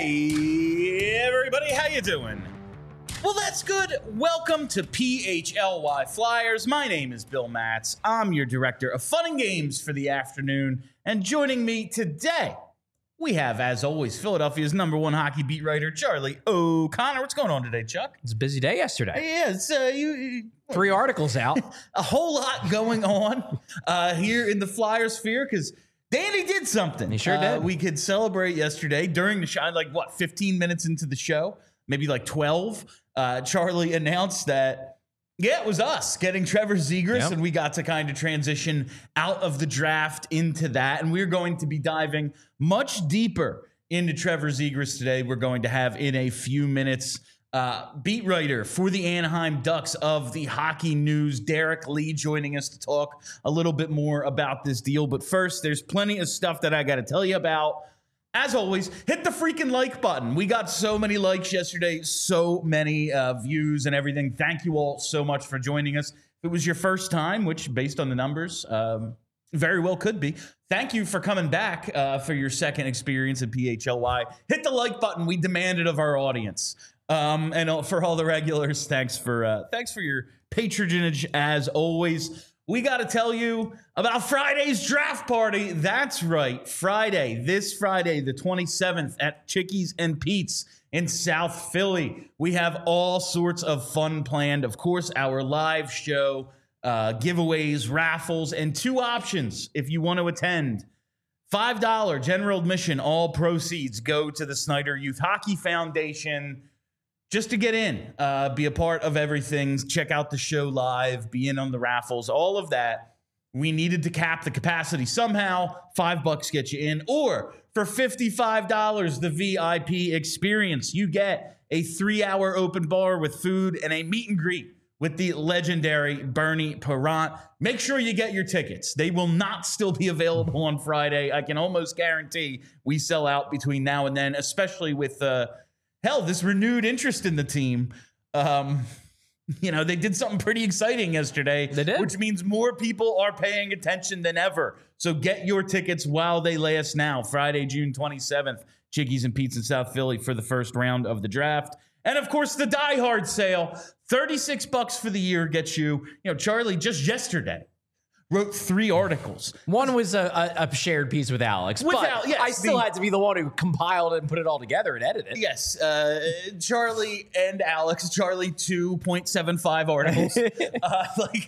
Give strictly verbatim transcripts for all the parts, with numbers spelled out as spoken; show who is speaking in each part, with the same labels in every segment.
Speaker 1: Hey, everybody, how you doing? Well, that's good. Welcome to P H L Y Flyers. My name is Bill Matz. I'm your director of fun and games for the afternoon. And joining me today, we have, as always, Philadelphia's number one hockey beat writer, Charlie O'Connor. What's going on today, Chuck?
Speaker 2: It's a busy day yesterday.
Speaker 1: Yeah, it's uh, you, you
Speaker 2: Three articles out.
Speaker 1: a whole lot going on uh, here in the Flyers sphere because Danny did something.
Speaker 2: He sure
Speaker 1: uh,
Speaker 2: did.
Speaker 1: We could celebrate yesterday during the show, like what, fifteen minutes into the show, maybe like twelve. Uh, Charlie announced that, yeah, it was us getting Trevor Zegras,
Speaker 2: Yep.
Speaker 1: and we got to kind of transition out of the draft into that. And we're going to be diving much deeper into Trevor Zegras today. We're going to have in a few minutes uh, beat writer for the Anaheim Ducks of the Hockey News, Derek Lee, joining us to talk a little bit more about this deal. But first, there's plenty of stuff that I got to tell you about. As always, hit the freaking like button. We got so many likes yesterday, so many uh, views and everything. Thank you all so much for joining us. If it was your first time, which based on the numbers, um, very well could be, thank you for coming back uh, for your second experience at P H L Y. Hit the like button. We demand it of our audience. Um, and for all the regulars, thanks for uh, thanks for your patronage as always. We got to tell you about Friday's draft party. That's right, Friday, this Friday, the twenty-seventh at Chickies and Pete's in South Philly. We have all sorts of fun planned. Of course, our live show, uh, giveaways, raffles, and two options if you want to attend. five dollars general admission, all proceeds go to the Snyder Youth Hockey Foundation. Just to get in, uh, be a part of everything, check out the show live, be in on the raffles, all of that. We needed to cap the capacity somehow. Five bucks get you in. Or for fifty-five dollars, the V I P experience. You get a three-hour open bar with food and a meet and greet with the legendary Bernie Parent. Make sure you get your tickets. They will not still be available on Friday. I can almost guarantee we sell out between now and then, especially with... Uh, Hell, this renewed interest in the team. Um, you know, they did something pretty exciting yesterday.
Speaker 2: They did.
Speaker 1: Which means more people are paying attention than ever. So get your tickets while they last now. Friday, June twenty-seventh, Chickies and Pete's in South Philly for the first round of the draft. And, of course, the Die Hard sale. thirty-six bucks for the year gets you. You know, Charlie, just yesterday, wrote three articles.
Speaker 2: One was a, a, a shared piece with Alex,
Speaker 1: With
Speaker 2: but
Speaker 1: Al- yes,
Speaker 2: I still
Speaker 1: the-
Speaker 2: had to be the one who compiled it and put it all together and edited it.
Speaker 1: Yes, uh, Charlie and Alex. Charlie, two point seven five articles. uh, like,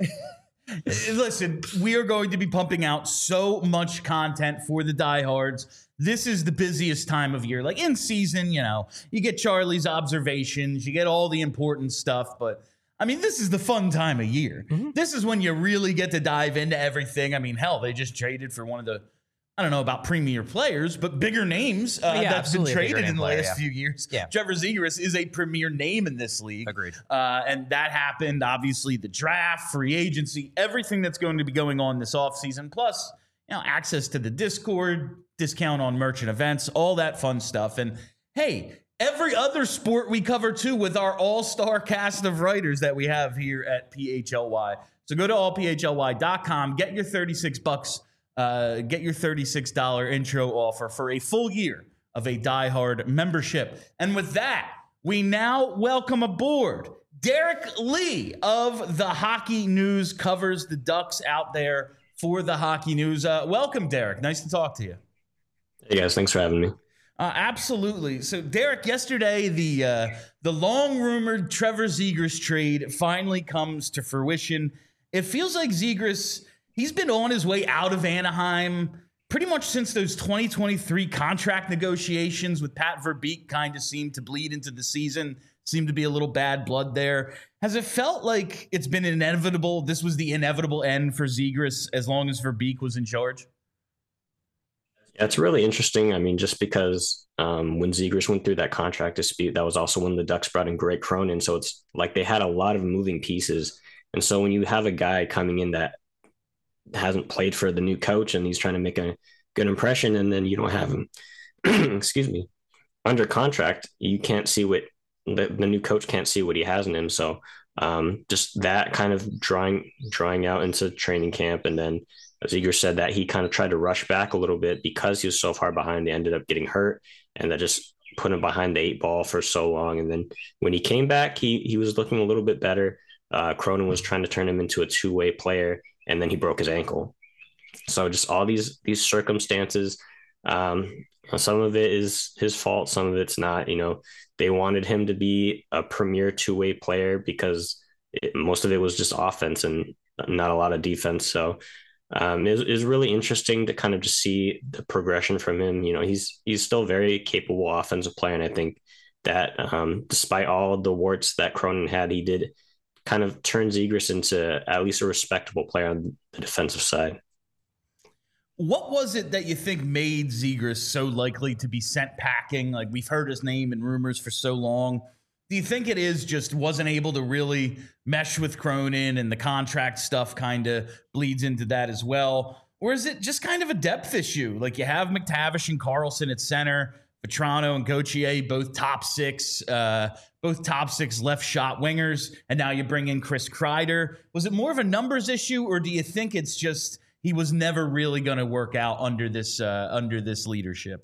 Speaker 1: listen, we are going to be pumping out so much content for the diehards. This is the busiest time of year. Like in season, you know, you get Charlie's observations, you get all the important stuff, but I mean, this is the fun time of year. Mm-hmm. This is when you really get to dive into everything. I mean, hell, they just traded for one of the, I don't know about premier players, but bigger names uh,
Speaker 2: Yeah,
Speaker 1: that's been traded in the
Speaker 2: player,
Speaker 1: last
Speaker 2: yeah.
Speaker 1: few years.
Speaker 2: Yeah.
Speaker 1: Trevor Zegras is a premier name in this league.
Speaker 2: Agreed.
Speaker 1: Uh, and that happened, obviously, the draft, free agency, everything that's going to be going on this offseason, plus, you know, access to the Discord, discount on merchant events, all that fun stuff. And hey, every other sport we cover, too, with our all-star cast of writers that we have here at P H L Y. So go to all p h l y dot com, get your thirty-six bucks, uh, get your thirty-six dollars intro offer for a full year of a Die Hard membership. And with that, we now welcome aboard Derek Lee of the Hockey News, covers the Ducks out there for the Hockey News. Uh, welcome, Derek. Nice to talk to you.
Speaker 3: Hey, guys. Thanks for having me.
Speaker 1: Uh, absolutely. So, Derek, yesterday, the uh, the long-rumored Trevor Zegras trade finally comes to fruition. It feels like Zegras, he's been on his way out of Anaheim pretty much since those twenty twenty-three contract negotiations with Pat Verbeek kind of seemed to bleed into the season, seemed to be a little bad blood there. Has it felt like it's been inevitable, this was the inevitable end for Zegras as long as Verbeek was in charge?
Speaker 3: Yeah, it's really interesting. I mean, just because um, when Zegras went through that contract dispute, that was also when the Ducks brought in Greg Cronin. So it's like they had a lot of moving pieces. And so when you have a guy coming in that hasn't played for the new coach and he's trying to make a good impression, and then you don't have him, excuse me, under contract, you can't see what the, the new coach can't see what he has in him. So um, just that kind of drawing, drawing out into training camp. And then as Igor said, that he kind of tried to rush back a little bit because he was so far behind. He ended up getting hurt, and that just put him behind the eight ball for so long. And then when he came back, he he was looking a little bit better. Uh, Cronin was trying to turn him into a two-way player, and then he broke his ankle. So just all these these circumstances, um, some of it is his fault, some of it's not. You know, they wanted him to be a premier two-way player because it, most of it was just offense and not a lot of defense. So um, it is really interesting to kind of just see the progression from him. You know, he's he's still a very capable offensive player, and I think that um, despite all the warts that Cronin had, he did kind of turn Zegras into at least a respectable player on the defensive side.
Speaker 1: What was it that you think made Zegras so likely to be sent packing? Like, we've heard his name and rumors for so long. Do you think it is just wasn't able to really mesh with Cronin and the contract stuff kind of bleeds into that as well? Or is it just kind of a depth issue? Like, you have McTavish and Carlson at center, Vetrano and Gauthier, both top six, uh, both top six left shot wingers, and now you bring in Chris Kreider. Was it more of a numbers issue, or do you think it's just he was never really going to work out under this uh, under this leadership?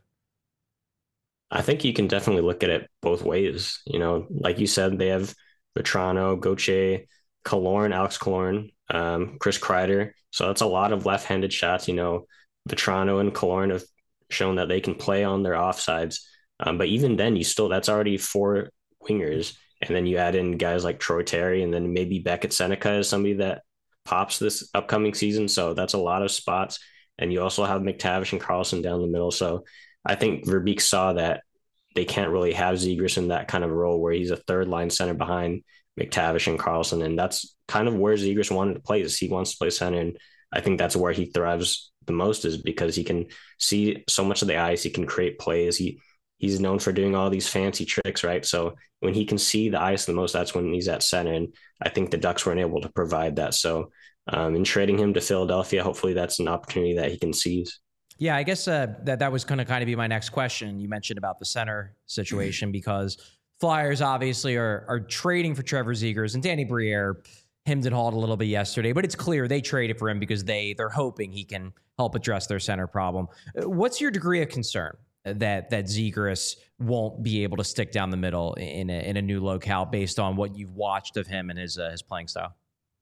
Speaker 3: I think you can definitely look at it both ways. You know, like you said, they have Vetrano, Gauthier, Killorn, Alex Killorn, um, Chris Kreider. So that's a lot of left-handed shots. You know, Vetrano and Killorn have shown that they can play on their offsides. Um, but even then, you still, that's already four wingers. And then you add in guys like Troy Terry, and then maybe Beckett Seneca is somebody that pops this upcoming season. So that's a lot of spots. And you also have McTavish and Carlson down the middle. So I think Verbeek saw that they can't really have Zegras in that kind of role where he's a third line center behind McTavish and Carlson. And that's kind of where Zegras wanted to play, is he wants to play center. And I think that's where he thrives the most, is because he can see so much of the ice. He can create plays. He he's known for doing all these fancy tricks, right? So when he can see the ice the most, that's when he's at center. And I think the Ducks weren't able to provide that. So um, in trading him to Philadelphia, hopefully that's an opportunity that he can seize.
Speaker 2: Yeah, I guess uh, that that was going to kind of be my next question. You mentioned about the center situation because Flyers obviously are are trading for Trevor Zegras, and Danny Briere hemmed and hawed a little bit yesterday, but it's clear they traded for him because they they're hoping he can help address their center problem. What's your degree of concern that that Zegras won't be able to stick down the middle in a, in a new locale based on what you've watched of him and his uh, his playing style?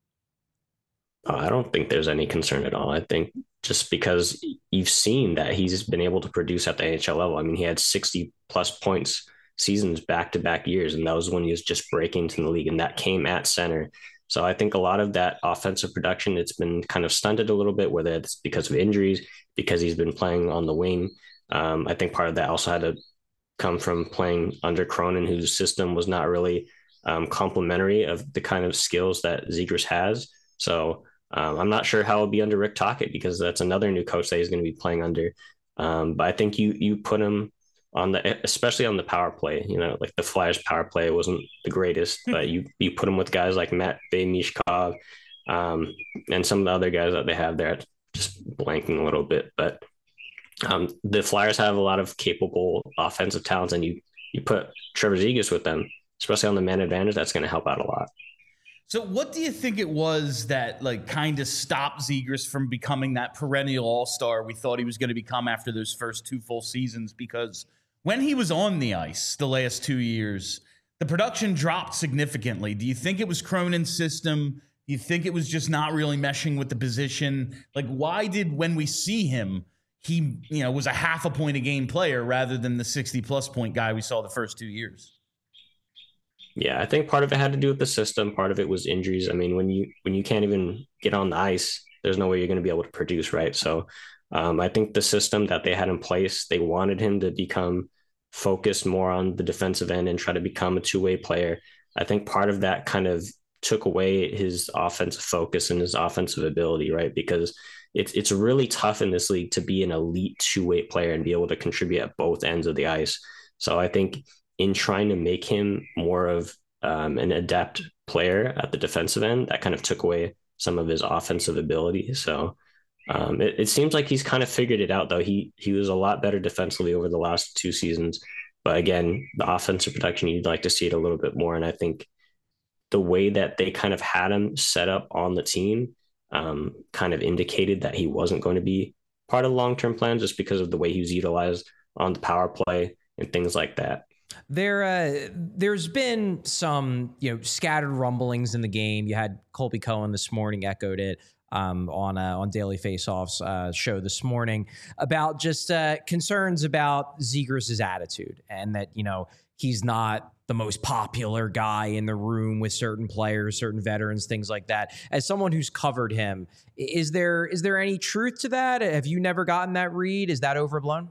Speaker 3: Oh, I don't think there's any concern at all. I think just because you've seen that he's been able to produce at the N H L level. I mean, he had sixty plus points seasons back to back years, and that was when he was just breaking into the league, and that came at center. So I think a lot of that offensive production, it's been kind of stunted a little bit, whether it's because of injuries, because he's been playing on the wing. Um, I think part of that also had to come from playing under Cronin, whose system was not really um, complementary of the kind of skills that Zegras has. So um, I'm not sure how it'll be under Rick Tocchet, because that's another new coach that he's going to be playing under. Um, but I think you you put him on the, especially on the power play, you know, like the Flyers power play wasn't the greatest, but you you put him with guys like Matt Mishkov um, and some of the other guys that they have there, just blanking a little bit. But um, the Flyers have a lot of capable offensive talents, and you you put Trevor Zegras with them, especially on the man advantage, that's going to help out a lot.
Speaker 1: So what do you think it was that like kind of stopped Zegras from becoming that perennial all-star we thought he was going to become after those first two full seasons? Because when he was on the ice the last two years, the production dropped significantly. Do you think it was Cronin's system? Do you think it was just not really meshing with the position? Like, why did, when we see him, he, you know, was a half a point a game player rather than the sixty plus point guy we saw the first two years?
Speaker 3: Yeah, I think part of it had to do with the system. Part of it was injuries. I mean, when you when you can't even get on the ice, there's no way you're going to be able to produce, right? So um, I think the system that they had in place, they wanted him to become focused more on the defensive end and try to become a two-way player. I think part of that kind of took away his offensive focus and his offensive ability, right? Because it's it's really tough in this league to be an elite two-way player and be able to contribute at both ends of the ice. So I think in trying to make him more of um, an adept player at the defensive end, that kind of took away some of his offensive ability. So um, it, it seems like he's kind of figured it out, though. He he was a lot better defensively over the last two seasons. But again, the offensive production, you'd like to see it a little bit more. And I think the way that they kind of had him set up on the team um, kind of indicated that he wasn't going to be part of the long-term plan, just because of the way he was utilized on the power play and things like that.
Speaker 2: There, uh, there's been some, you know, scattered rumblings in the game. You had Colby Cohen this morning echoed it um, on uh, on Daily Faceoff's uh, show this morning about just uh, concerns about Zegras' attitude, and that, you know, he's not the most popular guy in the room with certain players, certain veterans, things like that. As someone who's covered him, is there is there any truth to that? Have you never gotten that read? Is that overblown?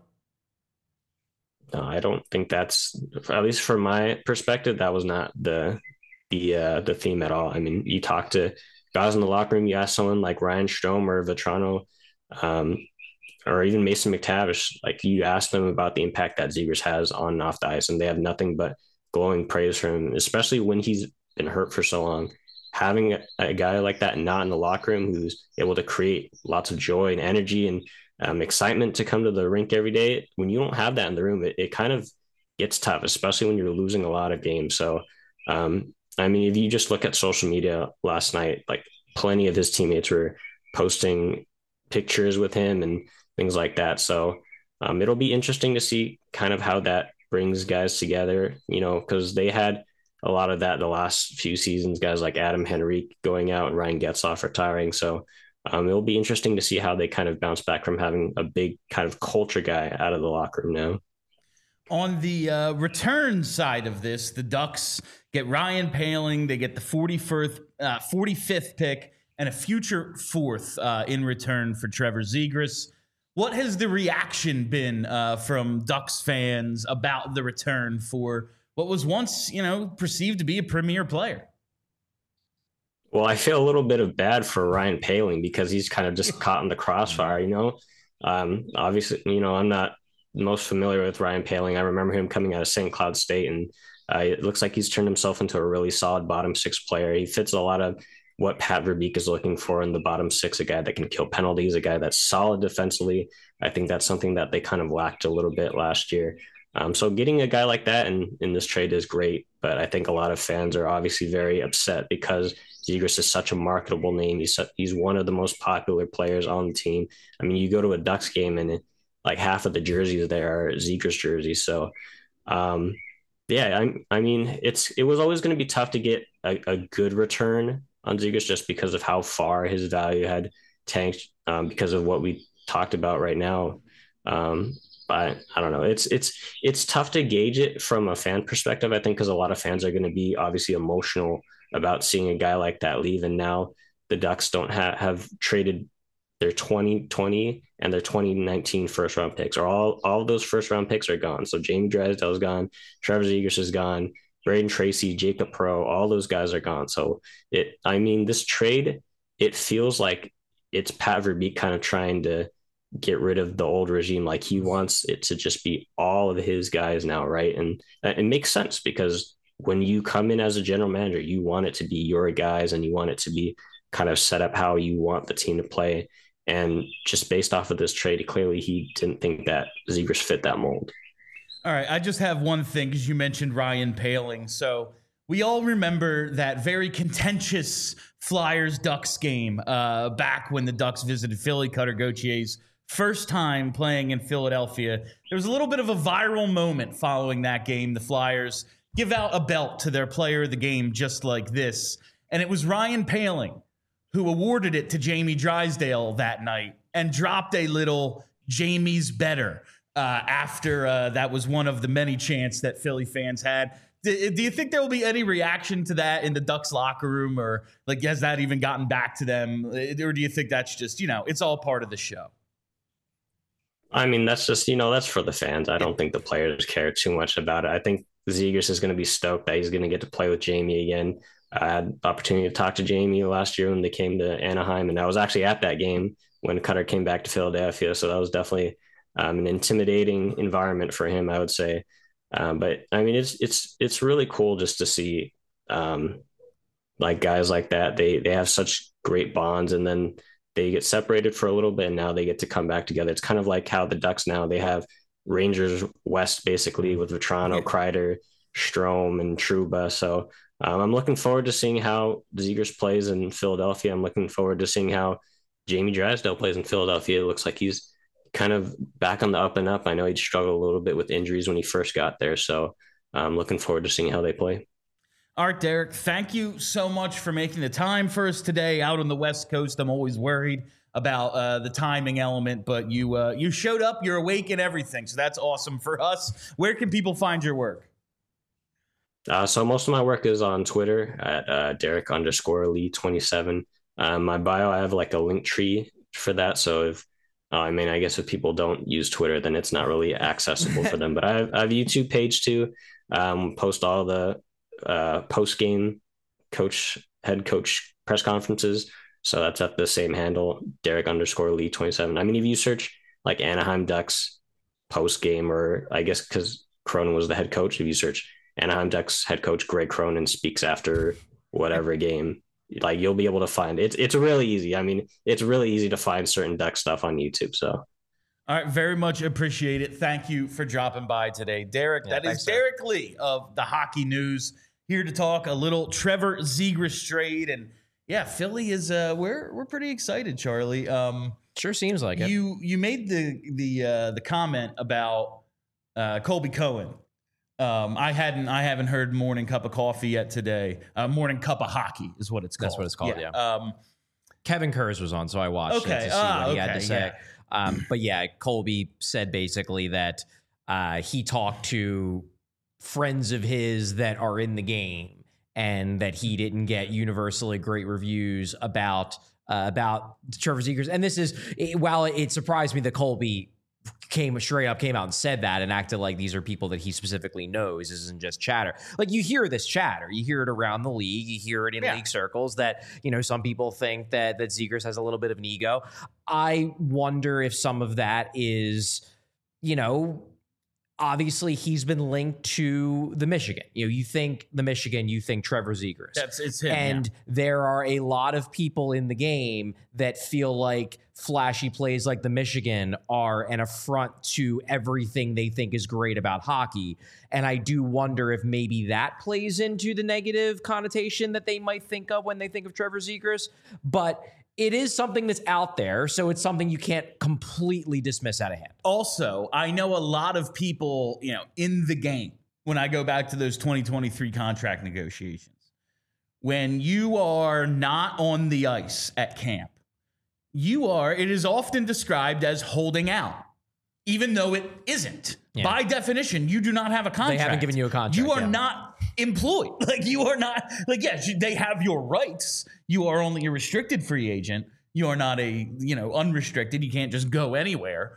Speaker 3: No, I don't think that's, at least from my perspective, that was not the the uh, the theme at all. I mean, you talk to guys in the locker room, you ask someone like Ryan Strome or Vetrano, um, or even Mason McTavish, like you ask them about the impact that Zegras has on and off the ice, and they have nothing but glowing praise for him, especially when he's been hurt for so long. Having a, a guy like that not in the locker room who's able to create lots of joy and energy and Um, excitement to come to the rink every day. When you don't have that in the room, it, it kind of gets tough, especially when you're losing a lot of games. So, um, I mean, if you just look at social media last night, like plenty of his teammates were posting pictures with him and things like that. So um, it'll be interesting to see kind of how that brings guys together, you know, because they had a lot of that the last few seasons, guys like Adam Henrique going out and Ryan Getzlaf retiring. So Um, it'll be interesting to see how they kind of bounce back from having a big kind of culture guy out of the locker room now.
Speaker 1: On the uh, return side of this, the Ducks get Ryan Poehling. They get the forty-fifth, uh, forty-fifth pick and a future fourth uh, in return for Trevor Zegras. What has the reaction been uh, from Ducks fans about the return for what was once, you know, perceived to be a premier player?
Speaker 3: Well, I feel a little bit of bad for Ryan Poehling because he's kind of just caught in the crossfire, you know. Um, obviously, you know, I'm not most familiar with Ryan Poehling. I remember him coming out of Saint Cloud State, and uh, it looks like he's turned himself into a really solid bottom six player. He fits a lot of what Pat Verbeek is looking for in the bottom six, a guy that can kill penalties, a guy that's solid defensively. I think that's something that they kind of lacked a little bit last year. Um, so getting a guy like that in, in this trade is great, but I think a lot of fans are obviously very upset because Zegras is such a marketable name. He's he's one of the most popular players on the team. I mean, you go to a Ducks game and it, like half of the jerseys there are Zegras jerseys. So, um, yeah, I, I mean, it's it was always going to be tough to get a, a good return on Zegras just because of how far his value had tanked um, because of what we talked about right now. Um, but I don't know. It's it's it's tough to gauge it from a fan perspective, I think, because a lot of fans are going to be obviously emotional about seeing a guy like that leave. And now the Ducks don't have, have traded their twenty twenty and their twenty nineteen first round picks, or all, all of those first round picks are gone. So Jamie Drysdale is gone. Trevor Zegras is gone. Braden Tracy, Jacob Pro, all those guys are gone. So it, I mean, this trade, it feels like it's Pat Verbeek kind of trying to get rid of the old regime. Like he wants it to just be all of his guys now. Right. And it makes sense because when you come in as a general manager, you want it to be your guys and you want it to be kind of set up how you want the team to play. And just based off of this trade, clearly he didn't think that Zegras fit that mold.
Speaker 1: All right, I just have one thing because you mentioned Ryan Poehling. So we all remember that very contentious Flyers-Ducks game uh, back when the Ducks visited Philly, Cutter Gauthier's first time playing in Philadelphia. There was a little bit of a viral moment following that game. The Flyers give out a belt to their player of the game just like this. And it was Ryan Poehling who awarded it to Jamie Drysdale that night and dropped a little Jamie's better uh, after uh, that was one of the many chants that Philly fans had. Do, do you think there will be any reaction to that in the Ducks locker room, or like has that even gotten back to them? Or do you think that's just, you know, it's all part of the show?
Speaker 3: I mean, that's just, you know, that's for the fans. I don't think the players care too much about it. I think Zegras is going to be stoked that he's going to get to play with Jamie again. I had the opportunity to talk to Jamie last year when they came to Anaheim, and I was actually at that game when Cutter came back to Philadelphia. So that was definitely um, an intimidating environment for him, I would say. Um, but I mean, it's it's it's really cool just to see um, like guys like that. They they have such great bonds, and then they get separated for a little bit, and now they get to come back together. It's kind of like how the Ducks now, they have Rangers West basically with Vetrano, yeah. Kreider, Strome, and Trouba. So um, I'm looking forward to seeing how Zegras plays in Philadelphia. I'm looking forward to seeing how Jamie Drysdale plays in Philadelphia. It looks like he's kind of back on the up and up. I know he struggled a little bit with injuries when he first got there. So I'm looking forward to seeing how they play.
Speaker 1: All right, Derek, thank you so much for making the time for us today out on the West Coast. I'm always worried about uh, the timing element, but you uh, you showed up, you're awake and everything. So that's awesome for us. Where can people find your work?
Speaker 3: Uh, so most of my work is on Twitter at uh, Derek underscore Lee twenty-seven. Um, my bio, I have like a link tree for that. So if, uh, I mean, I guess if people don't use Twitter, then it's not really accessible for them. But I have, I have a YouTube page too. Um, post all the uh, post game coach, head coach press conferences. So that's at the same handle, Derek underscore Lee twenty-seven. I mean, if you search like Anaheim Ducks post game, or I guess because Cronin was the head coach, if you search Anaheim Ducks head coach Greg Cronin speaks after whatever game, like you'll be able to find it. It's it's really easy. I mean, it's really easy to find certain Duck stuff on YouTube. So,
Speaker 1: all right, very much appreciate it. Thank you for dropping by today, Derek.
Speaker 2: Yeah,
Speaker 1: that
Speaker 2: thanks,
Speaker 1: is
Speaker 2: sir.
Speaker 1: Derek Lee of the Hockey News, here to talk a little Trevor Zegras trade. And yeah, Philly is uh, we're we're pretty excited, Charlie. Um,
Speaker 2: Sure seems like it.
Speaker 1: you you made the the uh, the comment about uh, Colby Cohen. Um, I hadn't, I haven't heard Morning Cup of Coffee yet today. Uh, Morning Cup of Hockey is what it's called.
Speaker 2: That's what it's called, yeah.
Speaker 1: Um,
Speaker 2: Kevin Kurz was on, so I watched
Speaker 1: Okay,
Speaker 2: it to see
Speaker 1: ah,
Speaker 2: what he had
Speaker 1: okay,
Speaker 2: to say.
Speaker 1: yeah.
Speaker 2: Um, but yeah, Colby said basically that uh, he talked to friends of his that are in the game, and that he didn't get universally great reviews about uh, about Trevor Zegras. And this is, it, while it surprised me that Colby came straight up, came out and said that and acted like these are people that he specifically knows. This isn't just chatter. Like, you hear this chatter, you hear it around the league, you hear it in
Speaker 1: Yeah.
Speaker 2: league circles that, you know, some people think that that Zegras has a little bit of an ego. I wonder if some of that is, you know, obviously he's been linked to the Michigan. You know, you think the Michigan, you think Trevor Zegras.
Speaker 1: that's it's him.
Speaker 2: And
Speaker 1: yeah.
Speaker 2: there are a lot of people in the game that feel like flashy plays like the Michigan are an affront to everything they think is great about hockey. And I do wonder if maybe that plays into the negative connotation that they might think of when they think of Trevor Zegras. But it is something that's out there, so it's something you can't completely dismiss out of hand.
Speaker 1: Also, I know a lot of people, you know, in the game, when I go back to those twenty twenty-three contract negotiations, when you are not on the ice at camp, you are, it is often described as holding out, even though it isn't.
Speaker 2: Yeah.
Speaker 1: By definition, you do not have a contract.
Speaker 2: They haven't given you a contract,
Speaker 1: You are
Speaker 2: yeah.
Speaker 1: not employed. Like, you are not, like, yes, you- they have your rights. You are only a restricted free agent. You are not a, you know, unrestricted. You can't just go anywhere.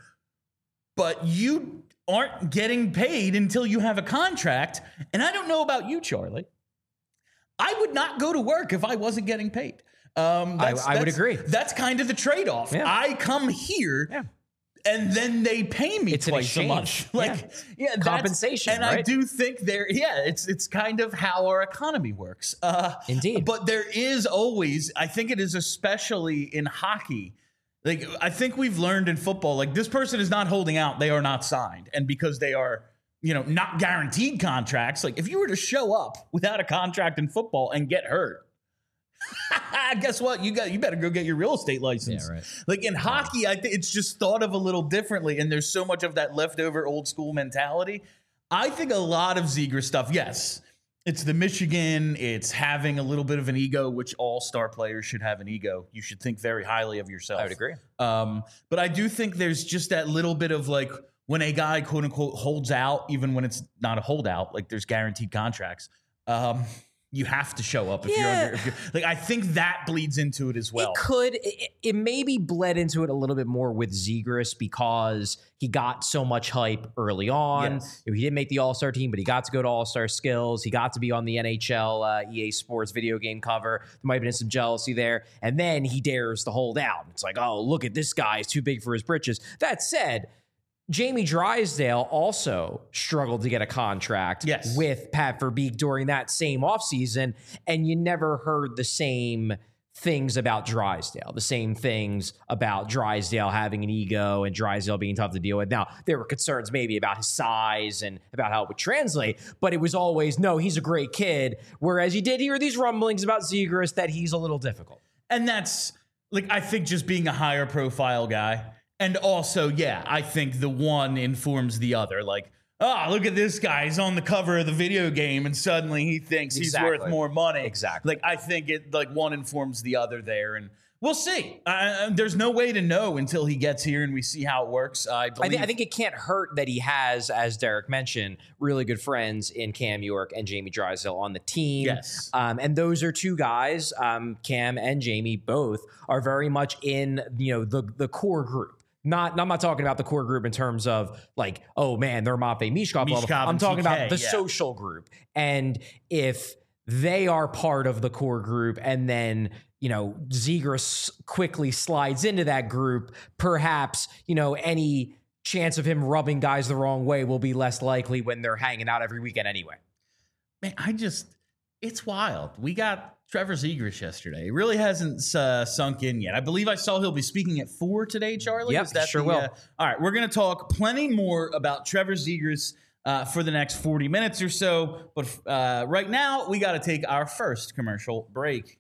Speaker 1: But you aren't getting paid until you have a contract. And I don't know about you, Charlie. I would not go to work if I wasn't getting paid. Um,
Speaker 2: I-
Speaker 1: that's-
Speaker 2: I would
Speaker 1: that's-
Speaker 2: agree.
Speaker 1: That's kind of the trade-off.
Speaker 2: Yeah.
Speaker 1: I come here
Speaker 2: Yeah.
Speaker 1: and then they pay me
Speaker 2: It's an
Speaker 1: twice a
Speaker 2: exchange.
Speaker 1: month. Like,
Speaker 2: Yeah.
Speaker 1: yeah, that's-
Speaker 2: Compensation,
Speaker 1: And I
Speaker 2: right?
Speaker 1: do think there, yeah, it's it's kind of how our economy works. Uh,
Speaker 2: Indeed.
Speaker 1: But there is always, I think it is especially in hockey. Like, I think we've learned in football, like, this person is not holding out, they are not signed, and because they are, you know, not guaranteed contracts. Like, if you were to show up without a contract in football and get hurt, guess what? You got you better go get your real estate license.
Speaker 2: Yeah, right.
Speaker 1: Like, in hockey, I think it's just thought of a little differently, and there's so much of that leftover old school mentality. I think a lot of Zegras stuff, yes, it's the Michigan, it's having a little bit of an ego, which all star players should have an ego. You should think very highly of yourself.
Speaker 2: I would agree.
Speaker 1: Um, but I do think there's just that little bit of, like, when a guy, quote unquote, holds out, even when it's not a holdout, like, there's guaranteed contracts. Um, you have to show up if
Speaker 2: Yeah.
Speaker 1: you're under. If you're, like, I think that bleeds into it as well.
Speaker 2: It could. It, it maybe bled into it a little bit more with Zegras because he got so much hype early on.
Speaker 1: Yes.
Speaker 2: He didn't make the All-Star team, but he got to go to All-Star Skills. He got to be on the N H L uh, E A Sports video game cover. There might have been some jealousy there. And then he dares to hold out. It's like, oh, look at this guy. He's too big for his britches. That said, Jamie Drysdale also struggled to get a contract
Speaker 1: Yes.
Speaker 2: with Pat Verbeek during that same offseason, and you never heard the same things about Drysdale, the same things about Drysdale having an ego and Drysdale being tough to deal with. Now, there were concerns maybe about his size and about how it would translate, but it was always, no, he's a great kid, whereas you did hear these rumblings about Zegras that he's a little difficult.
Speaker 1: And that's, like, I think just being a higher profile guy. And also, yeah, I think the one informs the other. Like, oh, look at this guy. He's on the cover of the video game, and suddenly he thinks
Speaker 2: Exactly.
Speaker 1: he's worth more money.
Speaker 2: Exactly.
Speaker 1: Like, I think it like one informs the other there, and we'll see. Uh, there's no way to know until he gets here and we see how it works. I, believe-
Speaker 2: I, th- I think it can't hurt that he has, as Derek mentioned, really good friends in Cam York and Jamie Drysdale on the team.
Speaker 1: Yes.
Speaker 2: Um, and those are two guys, um, Cam and Jamie both, are very much in, you know, the, the core group. Not, I'm not talking about the core group in terms of like, oh man, they're Matvei Mishkov level.
Speaker 1: Mishkov
Speaker 2: I'm
Speaker 1: and
Speaker 2: talking
Speaker 1: T K,
Speaker 2: about the
Speaker 1: yeah.
Speaker 2: social group. And if they are part of the core group and then, you know, Zegras quickly slides into that group, perhaps, you know, any chance of him rubbing guys the wrong way will be less likely when they're hanging out every weekend anyway.
Speaker 1: Man, I just, it's wild. We got Trevor Zegras yesterday. It really hasn't uh, sunk in yet. I believe I saw he'll be speaking at four today, Charlie.
Speaker 2: Yep,
Speaker 1: Is that
Speaker 2: sure
Speaker 1: the,
Speaker 2: will.
Speaker 1: Uh, all right, we're going to talk plenty more about Trevor Zegras uh, for the next forty minutes or so. But uh, right now, we got to take our first commercial break.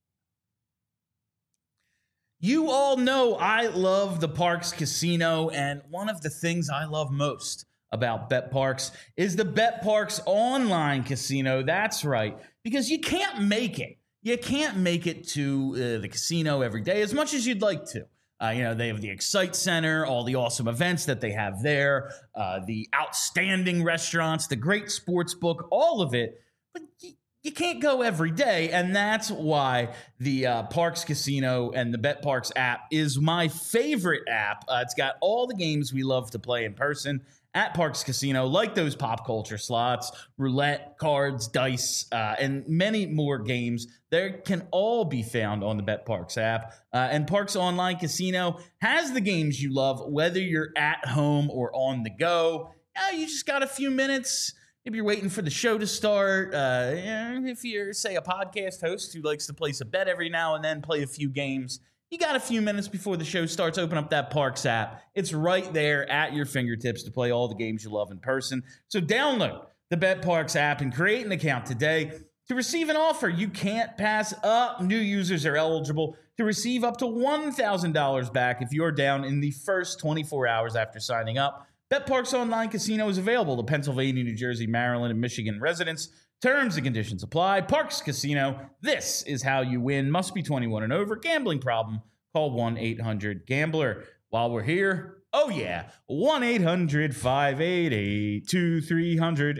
Speaker 1: You all know I love the Parx Casino, and one of the things I love most about BetParx is the BetParx online casino. That's right, because you can't make it. You can't make it to uh, the casino every day as much as you'd like to. Uh, you know, they have the Excite Center, all the awesome events that they have there, uh, the outstanding restaurants, the great sports book, all of it. But you, you can't go every day, and that's why the uh, Parx Casino and the BetParx app is my favorite app. Uh, it's got all the games we love to play in person at Parx Casino, like those pop culture slots, roulette, cards, dice, uh, and many more games. They can all be found on the BetParx app. Uh, and Parx Online Casino has the games you love, whether you're at home or on the go. Uh, you just got a few minutes. Maybe you're waiting for the show to start. Uh, if you're, say, a podcast host who likes to place a bet every now and then, play a few games, you got a few minutes before the show starts. Open up that Parx app. It's right there at your fingertips to play all the games you love in person. So download the BetParx app and create an account today to receive an offer you can't pass up. New users are eligible to receive up to one thousand dollars back if you're down in the first twenty-four hours after signing up. BetParx Online Casino is available to Pennsylvania, New Jersey, Maryland, and Michigan residents. Terms and conditions apply. Parx Casino, this is how you win. Must be twenty-one and over. Gambling problem? Call one eight hundred gambler. While we're here, oh yeah, one eight hundred five eight eight two three zero zero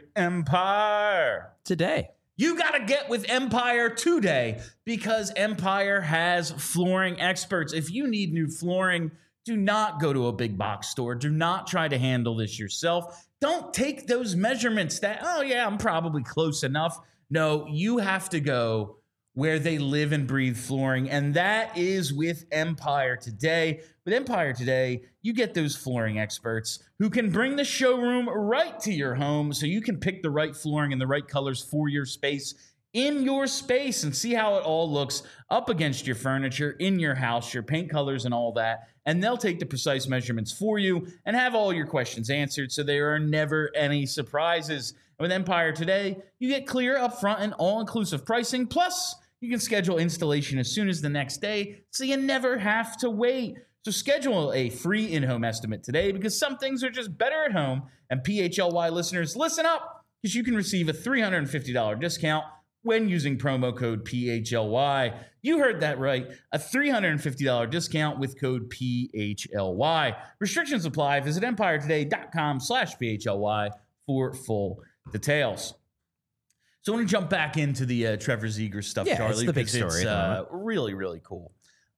Speaker 1: Empire.
Speaker 2: Today.
Speaker 1: You got to get with Empire today because Empire has flooring experts. If you need new flooring, do not go to a big box store. Do not try to handle this yourself. Don't take those measurements that, oh yeah, I'm probably close enough. No, you have to go where they live and breathe flooring, and that is with Empire Today. With Empire Today, you get those flooring experts who can bring the showroom right to your home so you can pick the right flooring and the right colors for your space in your space and see how it all looks up against your furniture, in your house, your paint colors and all that. And they'll take the precise measurements for you and have all your questions answered so there are never any surprises. And with Empire Today, you get clear, upfront, and all-inclusive pricing. Plus, you can schedule installation as soon as the next day so you never have to wait. So schedule a free in-home estimate today because some things are just better at home. And P H L Y listeners, listen up because you can receive a three hundred fifty dollars discount when using promo code P H L Y. You heard that right. A three hundred fifty dollars discount with code P H L Y. Restrictions apply. Visit empiretoday.com slash PHLY for full details. So I want to jump back into the uh, Trevor Zegras stuff,
Speaker 2: Yeah,
Speaker 1: Charlie.
Speaker 2: it's the big
Speaker 1: 'cause
Speaker 2: story
Speaker 1: It's
Speaker 2: at the
Speaker 1: uh,
Speaker 2: moment.
Speaker 1: really, really cool.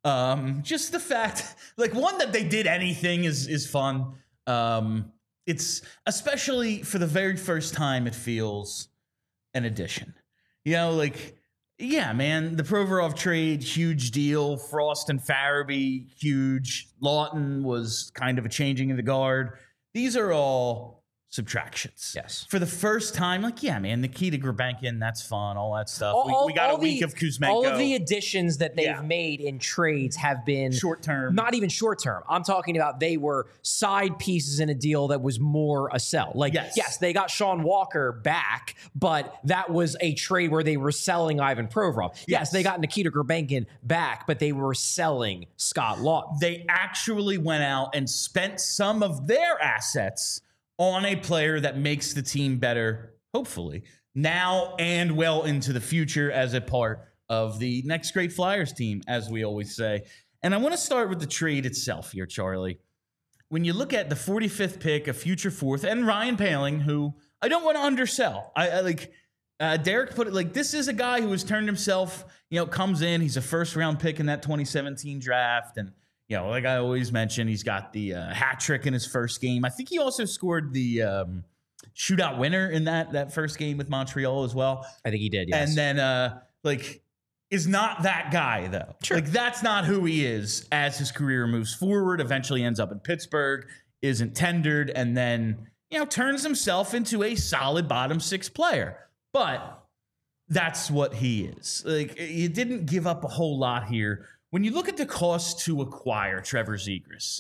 Speaker 1: Um, just the fact, like, one, that they did anything is is fun. Um, it's especially for the very first time, it feels an addition. You know, like, yeah, man, the Provorov trade, huge deal. Frost and Farabee, huge. Lawton was kind of a changing of the guard. These are all subtractions.
Speaker 2: Yes.
Speaker 1: For the first time, like, yeah, man, Nikita Grabenkin, that's fun, all that stuff.
Speaker 2: All,
Speaker 1: we, we got
Speaker 2: all
Speaker 1: a week
Speaker 2: the,
Speaker 1: of Kuzmenko.
Speaker 2: All of the additions that they've
Speaker 1: Yeah.
Speaker 2: made in trades have been
Speaker 1: Short term.
Speaker 2: Not even short term. I'm talking about they were side pieces in a deal that was more a sell. Like,
Speaker 1: Yes.
Speaker 2: yes, they got Sean Walker back, but that was a trade where they were selling Ivan Provorov. Yes,
Speaker 1: Yes.
Speaker 2: they got Nikita Grabenkin back, but they were selling Scott Laughton.
Speaker 1: They actually went out and spent some of their assets on a player that makes the team better, hopefully, now and well into the future as a part of the next great Flyers team, as we always say. And I want to start with the trade itself here, Charlie. When you look at the forty-fifth pick, a future fourth, and Ryan Poehling, who I don't want to undersell. I, I like uh, Derek put it like this is a guy who has turned himself, you know, comes in. He's a first round pick in that twenty seventeen draft. And, you know, like I always mention, he's got the uh, hat trick in his first game. I think he also scored the um, shootout winner in that that first game with Montreal as well.
Speaker 2: I think he did, yes.
Speaker 1: And then, uh, like, is not that guy, though.
Speaker 2: Sure.
Speaker 1: Like, that's not who he is as his career moves forward, eventually ends up in Pittsburgh, isn't tendered, and then, you know, turns himself into a solid bottom six player. But that's what he is. Like, you didn't give up a whole lot here. When you look at the cost to acquire Trevor Zegras,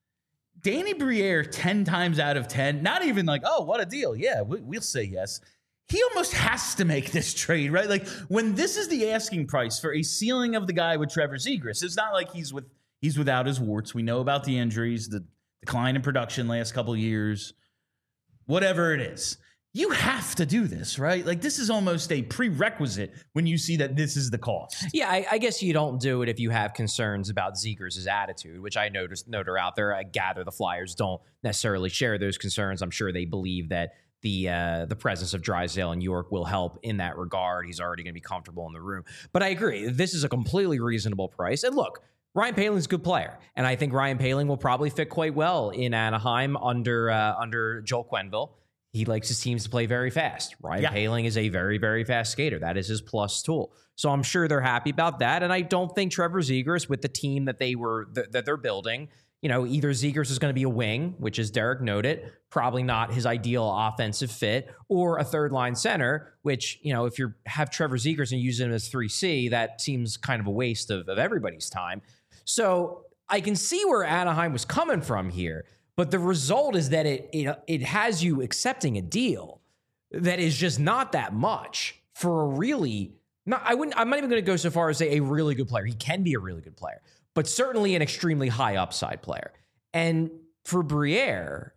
Speaker 1: Danny Briere, ten times out of ten, not even like, oh, what a deal. Yeah, we, we'll say yes. He almost has to make this trade, right? Like, when this is the asking price for a ceiling of the guy with Trevor Zegras, it's not like he's with he's without his warts. We know about the injuries, the decline in production last couple of years, whatever it is. You have to do this, right? Like, this is almost a prerequisite when you see that this is the cost.
Speaker 2: Yeah, I, I guess you don't do it if you have concerns about Zegras' attitude, which I noticed note are out there. I gather the Flyers don't necessarily share those concerns. I'm sure they believe that the uh, the presence of Drysdale and York will help in that regard. He's already going to be comfortable in the room. But I agree, this is a completely reasonable price. And look, Ryan Poehling's a good player, and I think Ryan Poehling will probably fit quite well in Anaheim under uh, under Joel Quenneville. He likes his teams to play very fast. Ryan
Speaker 1: Yeah.
Speaker 2: Poehling is a very, very fast skater. That is his plus tool. So I'm sure they're happy about that. And I don't think Trevor Zegras, with the team that they were th- that they're building, you know, either Zegras is going to be a wing, which is Derek noted, probably not his ideal offensive fit, or a third line center, which, you know, if you have Trevor Zegras and use him as three C, that seems kind of a waste of, of everybody's time. So I can see where Anaheim was coming from here. But the result is that it, it it has you accepting a deal that is just not that much for a really not. I wouldn't. I'm not even going to go so far as say a really good player. He can be a really good player, but certainly an extremely high upside player. And for Briere,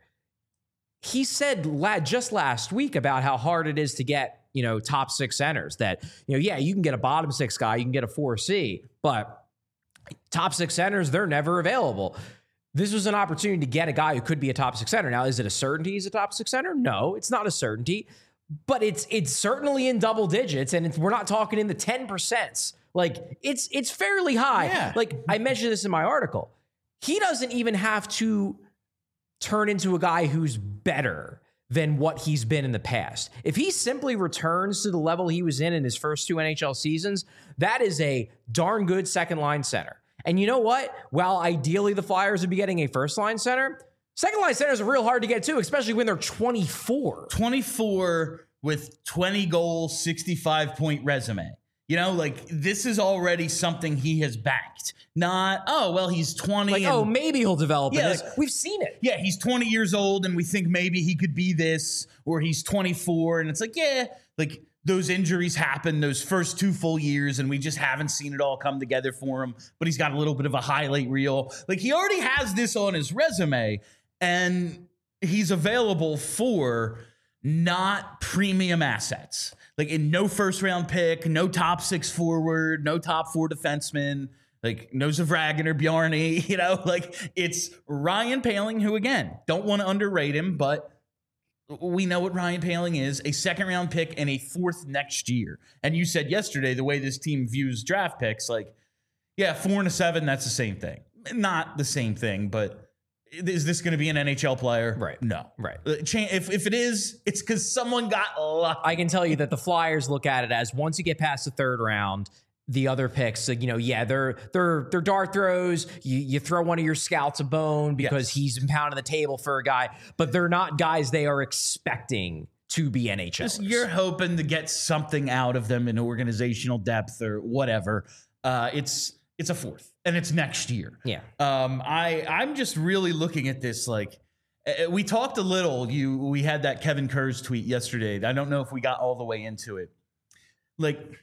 Speaker 2: he said la- just last week about how hard it is to get, you know, top six centers. That, you know, yeah, you can get a bottom six guy, you can get a four C, but top six centers, they're never available. This was an opportunity to get a guy who could be a top six center. Now, is it a certainty he's a top six center? No, it's not a certainty, but it's it's certainly in double digits, and it's, we're not talking in the ten percents. Like, it's it's fairly high.
Speaker 1: Yeah.
Speaker 2: Like, I mentioned this in my article. He doesn't even have to turn into a guy who's better than what he's been in the past. If he simply returns to the level he was in in his first two N H L seasons, that is a darn good second line center. And you know what? While ideally the Flyers would be getting a first line center, second line centers are real hard to get to, especially when they're twenty-four.
Speaker 1: twenty-four with twenty goals, sixty-five point resume. You know, like, this is already something he has backed. Not, oh, well, he's twenty.
Speaker 2: Like,
Speaker 1: and,
Speaker 2: oh, maybe he'll develop
Speaker 1: Yeah,
Speaker 2: in this.
Speaker 1: like-
Speaker 2: We've seen it.
Speaker 1: yeah, he's twenty years old and we think maybe he could be this, or he's twenty-four. And it's like, yeah, like, those injuries happen those first two full years, and we just haven't seen it all come together for him. But he's got a little bit of a highlight reel. Like, he already has this on his resume, and he's available for not premium assets. Like, in no first round pick, no top six forward, no top four defenseman, like no Zavragin or Bjarny, you know, like, it's Ryan Poehling, who, again, don't want to underrate him, but we know what Ryan Poehling is, a second round pick and a fourth next year. And you said yesterday, the way this team views draft picks, like, yeah, four and a seven, that's the same thing. Not the same thing, but is this going to be an N H L player?
Speaker 2: Right.
Speaker 1: No.
Speaker 2: Right.
Speaker 1: If, if it is, it's because someone got lucky.
Speaker 2: I can tell you that the Flyers look at it as once you get past the third round, the other picks, like, you know, yeah, they're they're they're dart throws. You you throw one of your scouts a bone because
Speaker 1: Yes.
Speaker 2: he's been pounding the table for a guy, but they're not guys they are expecting to be N H L.
Speaker 1: Just you're hoping to get something out of them in organizational depth or whatever. Uh, it's it's a fourth, and it's next year.
Speaker 2: Yeah.
Speaker 1: Um, I I'm just really looking at this like uh, we talked a little. You we had that Kevin Kurz tweet yesterday. I don't know if we got all the way into it. Like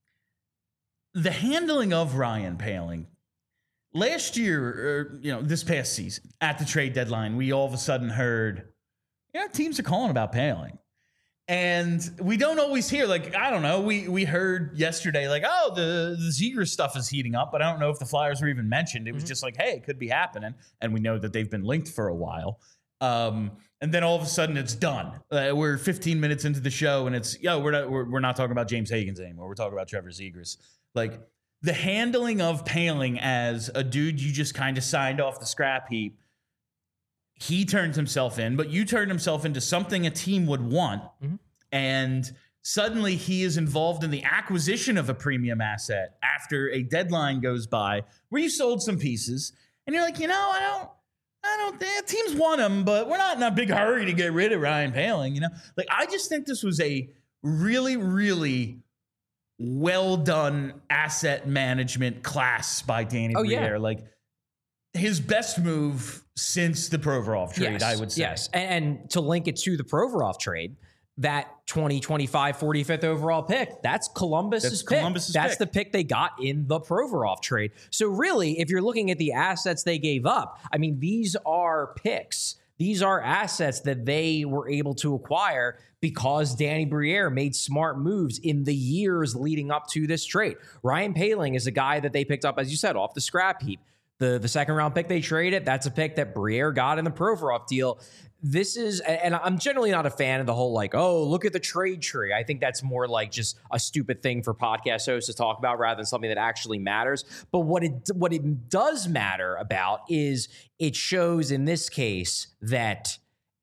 Speaker 1: the handling of Ryan Poehling last year, or you know, this past season at the trade deadline, we all of a sudden heard, yeah, teams are calling about Poehling. And we don't always hear, like, I don't know, we we heard yesterday, like, oh, the, the Zegras stuff is heating up, but I don't know if the Flyers were even mentioned. It was mm-hmm. just like, hey, it could be happening. And we know that they've been linked for a while. Um, and then all of a sudden it's done. Uh, we're fifteen minutes into the show and it's, yo, we're not, we're, we're not talking about James Higgins anymore. We're talking about Trevor Zegras. Like, the handling of Poehling as a dude you just kind of signed off the scrap heap, he turned himself in, but you turned himself into something a team would want. Mm-hmm. And suddenly he is involved in the acquisition of a premium asset after a deadline goes by where you sold some pieces. And you're like, you know, I don't, I don't think teams want him, but we're not in a big hurry to get rid of Ryan Poehling. You know, like, I just think this was a really, really well done asset management class by Danny
Speaker 2: oh,
Speaker 1: Briere.
Speaker 2: Yeah.
Speaker 1: Like, his best move since the Provorov trade,
Speaker 2: yes,
Speaker 1: I would say.
Speaker 2: Yes, and, and to link it to the Provorov trade, that twenty twenty-five forty-fifth overall pick, that's Columbus's
Speaker 1: that's
Speaker 2: pick.
Speaker 1: Columbus's
Speaker 2: that's
Speaker 1: pick.
Speaker 2: the pick they got in the Provorov trade. So really, if you're looking at the assets they gave up, I mean, these are picks. These are assets that they were able to acquire because Danny Briere made smart moves in the years leading up to this trade. Ryan Poehling is a guy that they picked up, as you said, off the scrap heap. The, the second round pick they traded, that's a pick that Briere got in the Provorov deal. This is, and I'm generally not a fan of the whole like, oh, look at the trade tree. I think that's more like just a stupid thing for podcast hosts to talk about rather than something that actually matters. But what it what it does matter about is it shows in this case that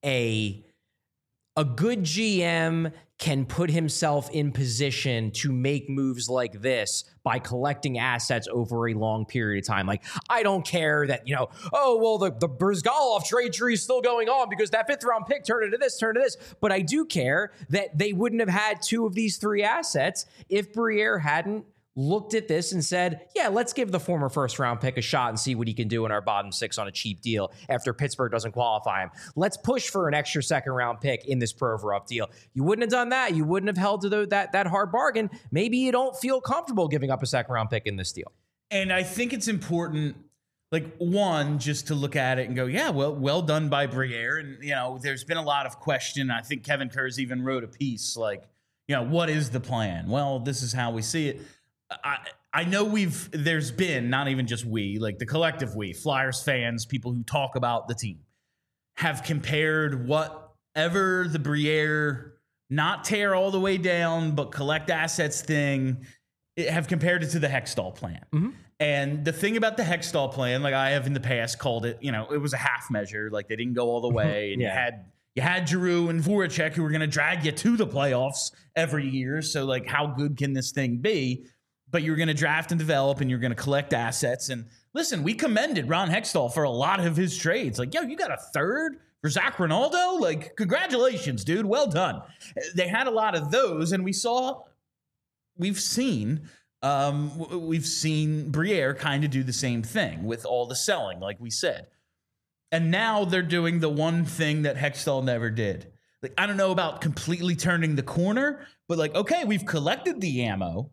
Speaker 2: a a good G M can put himself in position to make moves like this by collecting assets over a long period of time. Like, I don't care that, you know, oh, well, the, the Brizgalov trade tree is still going on because that fifth round pick turned into this, turned into this. But I do care that they wouldn't have had two of these three assets if Briere hadn't looked at this and said, yeah, let's give the former first round pick a shot and see what he can do in our bottom six on a cheap deal after Pittsburgh doesn't qualify him. Let's push for an extra second round pick in this Provorov deal. You wouldn't have done that. You wouldn't have held to the, that, that hard bargain. Maybe you don't feel comfortable giving up a second round pick in this deal.
Speaker 1: And I think it's important, like, one, just to look at it and go, yeah, well, well done by Briere. And, you know, there's been a lot of question. I think Kevin Kurz even wrote a piece like, you know, what is the plan? Well, this is how we see it. I I know we've there's been, not even just we, like the collective we, Flyers fans, people who talk about the team, have compared whatever the Briere not tear all the way down, but collect assets thing, have compared it to the Hextall plan. Mm-hmm. And the thing about the Hextall plan, like I have in the past called it, you know, it was a half measure, like they didn't go all the way, and yeah. you had you had Giroux and Voracek who were going to drag you to the playoffs every year. So like, how good can this thing be? But you're going to draft and develop, and you're going to collect assets. And listen, we commended Ron Hextall for a lot of his trades. Like, yo, you got a third for Zach Rinaldo? Like, congratulations, dude. Well done. They had a lot of those, and we saw, we've seen, um, we've seen Briere kind of do the same thing with all the selling, like we said. And now they're doing the one thing that Hextall never did. Like, I don't know about completely turning the corner, but like, okay, we've collected the ammo.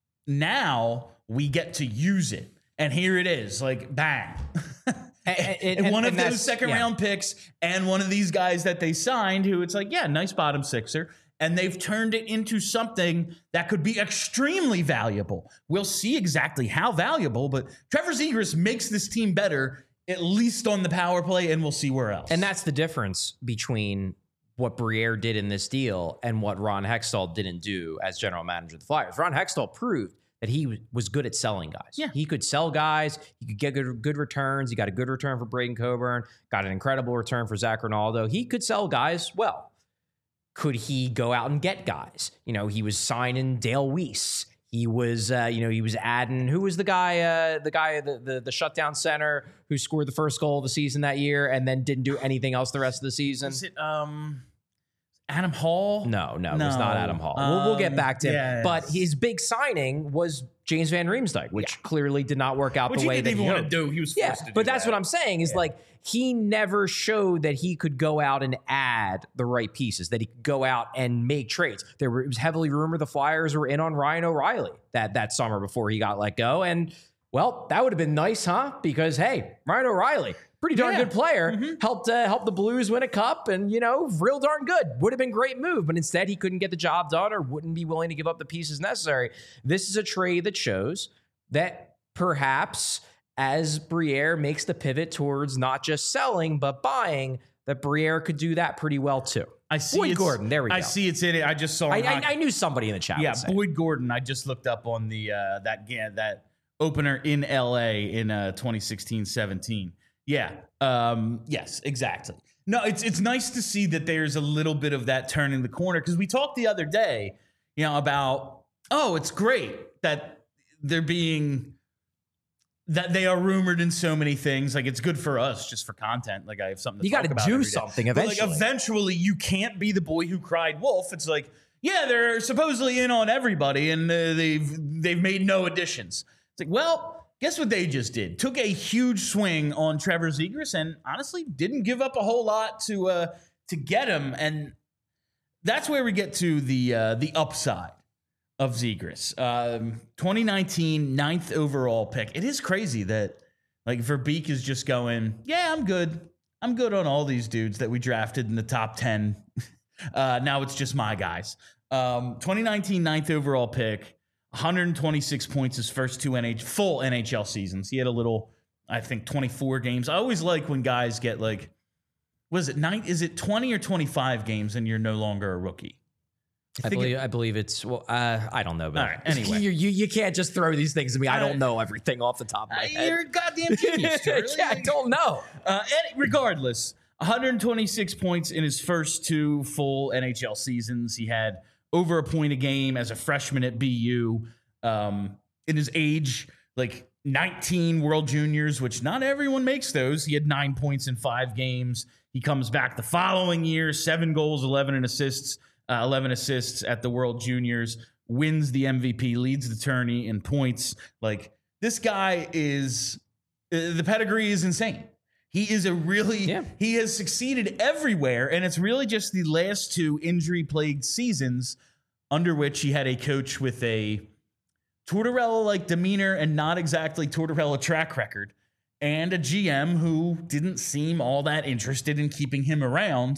Speaker 1: Now we get to use it. And here it is, like, bang. and, and, and one and, of and those second yeah. round picks and one of these guys that they signed who it's like, yeah, nice bottom sixer. And they've turned it into something that could be extremely valuable. We'll see exactly how valuable, but Trevor Zegras makes this team better, at least on the power play, and we'll see where else.
Speaker 2: And that's the difference between what Briere did in this deal and what Ron Hextall didn't do as general manager of the Flyers. Ron Hextall proved that he was good at selling guys.
Speaker 1: Yeah.
Speaker 2: He could sell guys. He could get good, good returns. He got a good return for Braden Coburn, got an incredible return for Zach Rinaldo. He could sell guys well. Could he go out and get guys? You know, he was signing Dale Weiss. He was, uh, you know, he was adding. Who was the guy? Uh, the guy, the, the the shutdown center who scored the first goal of the season that year and then didn't do anything else the rest of the season.
Speaker 1: Is it um, Adam Hall?
Speaker 2: No, no,
Speaker 1: no.
Speaker 2: it was not Adam Hall. Um, we'll, we'll get back to him.
Speaker 1: Yes.
Speaker 2: But his big signing was James Van Riemsdyk, which yeah. clearly did not work out
Speaker 1: which
Speaker 2: the way
Speaker 1: he didn't
Speaker 2: that
Speaker 1: even
Speaker 2: he
Speaker 1: want to do. He was forced
Speaker 2: yeah,
Speaker 1: to do
Speaker 2: but that's
Speaker 1: that.
Speaker 2: what I'm saying is yeah. like he never showed that he could go out and add the right pieces, that he could go out and make trades. There were, it was heavily rumored the Flyers were in on Ryan O'Reilly that, that summer before he got let go. And, well, that would have been nice, huh? Because, hey, Ryan O'Reilly, pretty darn
Speaker 1: yeah.
Speaker 2: good player,
Speaker 1: mm-hmm.
Speaker 2: helped uh, help the Blues win a cup and, you know, real darn good. Would have been a great move, but instead he couldn't get the job done or wouldn't be willing to give up the pieces necessary. This is a trade that shows that perhaps as Briere makes the pivot towards not just selling, but buying, that Briere could do that pretty well too.
Speaker 1: I see
Speaker 2: Boyd
Speaker 1: it's,
Speaker 2: Gordon, there we go.
Speaker 1: I see it's in it. I just saw
Speaker 2: I,
Speaker 1: him
Speaker 2: I, I knew somebody in the chat.
Speaker 1: Yeah, Boyd Gordon. I just looked up on the uh, that yeah, that opener in L A in uh, twenty sixteen seventeen. Yeah. Um, yes, exactly. No, it's it's nice to see that there's a little bit of that turning the corner because we talked the other day, you know, about oh, it's great that they're being that they are rumored in so many things. Like it's good for us just for content. Like I have something to
Speaker 2: you
Speaker 1: talk about.
Speaker 2: You got to do something eventually.
Speaker 1: But like eventually you can't be the boy who cried wolf. It's like, yeah, they're supposedly in on everybody and uh, they've they've made no additions. It's like, well, guess what they just did? Took a huge swing on Trevor Zegras and honestly didn't give up a whole lot to uh, to get him. And that's where we get to the uh, the upside of Zegras. Um, twenty nineteen ninth overall pick. It is crazy that like Verbeek is just going, yeah, I'm good. I'm good on all these dudes that we drafted in the top ten. uh, now it's just my guys. Um, twenty nineteen ninth overall pick, one hundred twenty-six points his first two N H full N H L seasons. He had a little, I think, twenty-four games. I always like when guys get like, was it nine? Is it twenty or twenty-five games and you're no longer a rookie?
Speaker 2: I, I believe it, I believe it's well. Uh, I don't know, but
Speaker 1: all right, anyway,
Speaker 2: you, you you can't just throw these things at me. I don't know everything off the top of my
Speaker 1: uh,
Speaker 2: head.
Speaker 1: You're a goddamn genius, Charlie.
Speaker 2: Yeah, I don't know.
Speaker 1: Uh, and regardless, one hundred twenty-six points in his first two full N H L seasons. He had over a point a game as a freshman at B U. Um, in his age, like nineteen World Juniors, which not everyone makes those. He had nine points in five games. He comes back the following year, seven goals, eleven assists. Uh, eleven assists at the World Juniors, wins the M V P, leads the tourney in points. Like, this guy is, uh, the pedigree is insane. He is a really,
Speaker 2: yeah.
Speaker 1: he has succeeded everywhere, and it's really just the last two injury-plagued seasons under which he had a coach with a Tortorella-like demeanor and not exactly Tortorella track record, and a G M who didn't seem all that interested in keeping him around.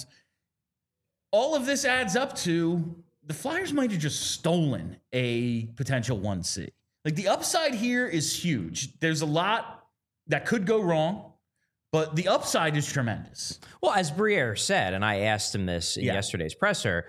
Speaker 1: All of this adds up to the Flyers might have just stolen a potential one C. Like the upside here is huge. There's a lot that could go wrong, but the upside is tremendous.
Speaker 2: Well, as Briere said, and I asked him this in
Speaker 1: yeah.
Speaker 2: yesterday's presser,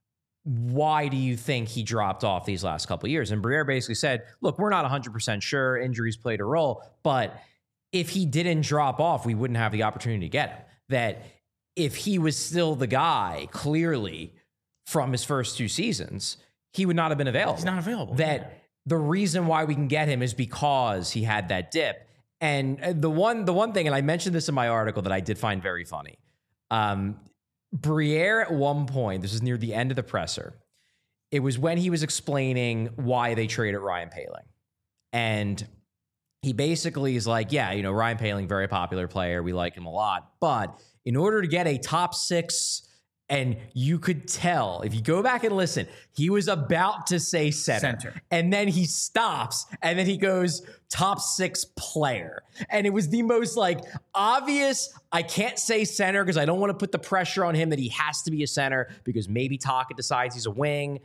Speaker 2: why do you think he dropped off these last couple of years? And Briere basically said, look, we're not one hundred percent sure. Injuries played a role, but if he didn't drop off, we wouldn't have the opportunity to get him. That if he was still the guy, clearly, from his first two seasons, he would not have been available.
Speaker 1: He's not available.
Speaker 2: That
Speaker 1: yeah.
Speaker 2: the reason why we can get him is because he had that dip. And the one the one thing, and I mentioned this in my article that I did find very funny, um, Briere at one point, this is near the end of the presser, it was when he was explaining why they traded Ryan Poehling. And he basically is like, yeah, you know, Ryan Poehling, very popular player. We like him a lot. But in order to get a top six, and you could tell, if you go back and listen, he was about to say center.
Speaker 1: Center.
Speaker 2: And then he stops, and then he goes, top six player. And it was the most, like, obvious, I can't say center because I don't want to put the pressure on him that he has to be a center because maybe Taka decides he's a wing.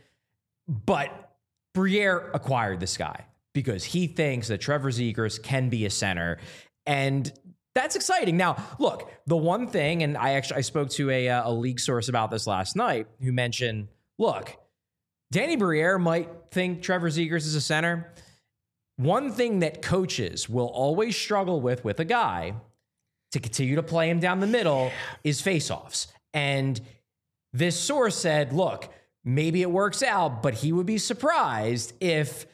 Speaker 2: But Briere acquired this guy because he thinks that Trevor Zegras can be a center. And that's exciting. Now, look, the one thing, and I actually I spoke to a, a league source about this last night who mentioned, look, Danny Briere might think Trevor Zegras is a center. One thing that coaches will always struggle with with a guy to continue to play him down the middle is faceoffs. And this source said, look, maybe it works out, but he would be surprised if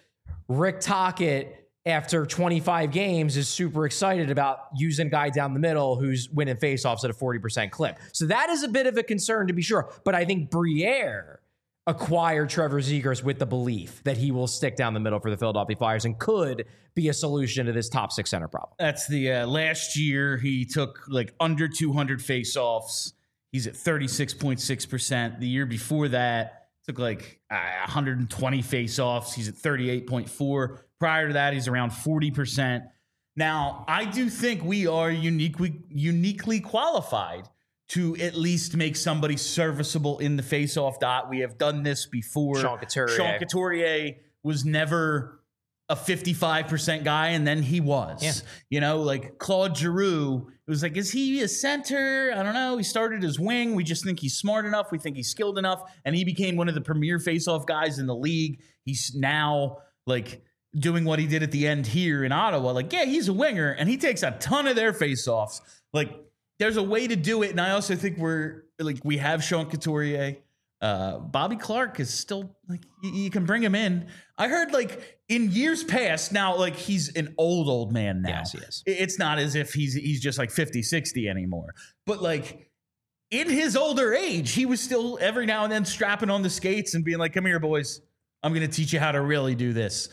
Speaker 2: Rick Tocchet, after twenty-five games, is super excited about using a guy down the middle who's winning faceoffs at a forty percent clip. So that is a bit of a concern, to be sure. But I think Briere acquired Trevor Zegras with the belief that he will stick down the middle for the Philadelphia Flyers and could be a solution to this top six center problem.
Speaker 1: That's the uh, last year he took like under two hundred faceoffs. He's at thirty-six point six percent. The year before that, took like uh, one hundred twenty faceoffs. He's at thirty-eight point four. Prior to that, he's around forty percent. Now, I do think we are uniquely uniquely qualified to at least make somebody serviceable in the faceoff dot. We have done this before.
Speaker 2: Sean Couturier.
Speaker 1: Sean Couturier was never a fifty-five percent guy, and then he was.
Speaker 2: Yeah.
Speaker 1: You know, like Claude Giroux, it was like, is he a center? I don't know. He started as wing. We just think he's smart enough. We think he's skilled enough. And he became one of the premier faceoff guys in the league. He's now like doing what he did at the end here in Ottawa. Like, yeah, he's a winger, and he takes a ton of their faceoffs. Like, there's a way to do it. And I also think we're like, we have Sean Couturier. Uh, Bobby Clark is still like, you, you can bring him in. I heard like in years past now, like he's an old, old man now.
Speaker 2: Yes, he is.
Speaker 1: It's not as if he's, he's just like fifty, sixty anymore, but like in his older age, he was still every now and then strapping on the skates and being like, come here, boys. I'm going to teach you how to really do this.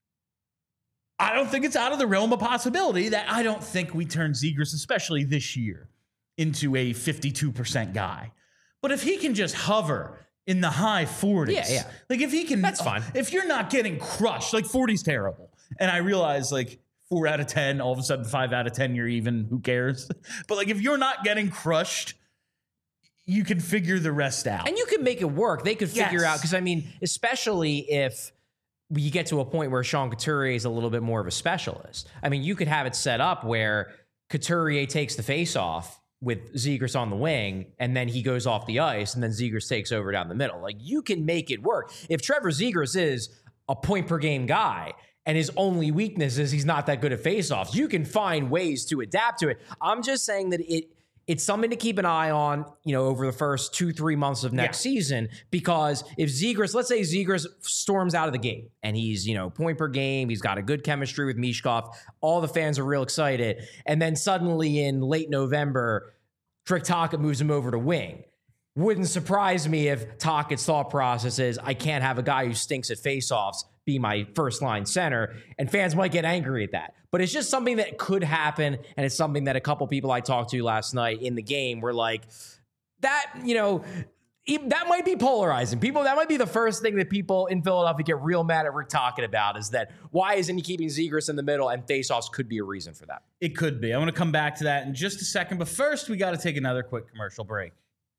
Speaker 1: I don't think it's out of the realm of possibility that I don't think we turn Zegras, especially this year, into a fifty-two percent guy. But if he can just hover in the high forties,
Speaker 2: yeah, yeah.
Speaker 1: like if he can,
Speaker 2: that's fine.
Speaker 1: If you're not getting crushed, like forty's terrible. And I realize like four out of ten, all of a sudden five out of ten, you're even, who cares? But like if you're not getting crushed, you can figure the rest out.
Speaker 2: And you can make it work. They could figure
Speaker 1: Yes.
Speaker 2: out, because I mean, especially if you get to a point where Sean Couturier is a little bit more of a specialist. I mean, you could have it set up where Couturier takes the face-off with Zegras on the wing, and then he goes off the ice, and then Zegras takes over down the middle. Like, you can make it work. If Trevor Zegras is a point-per-game guy, and his only weakness is he's not that good at face-offs, you can find ways to adapt to it. I'm just saying that it it's something to keep an eye on, you know, over the first two, three months of next
Speaker 1: Yeah.
Speaker 2: season, because if Zegras, let's say Zegras storms out of the gate and he's, you know, point per game, he's got a good chemistry with Mishkov, all the fans are real excited, and then suddenly in late November, Rick Tocchet moves him over to wing. Wouldn't surprise me if Tocchet's thought process is, I can't have a guy who stinks at faceoffs be my first line center, and fans might get angry at that. But it's just something that could happen, and it's something that a couple people I talked to last night in the game were like, that, you know, that might be polarizing. People, that might be the first thing that people in Philadelphia get real mad at Rick Tocchet about, is that why isn't he keeping Zegras in the middle, and faceoffs could be a reason for that.
Speaker 1: It could be. I want to come back to that in just a second, but first we got to take another quick commercial break.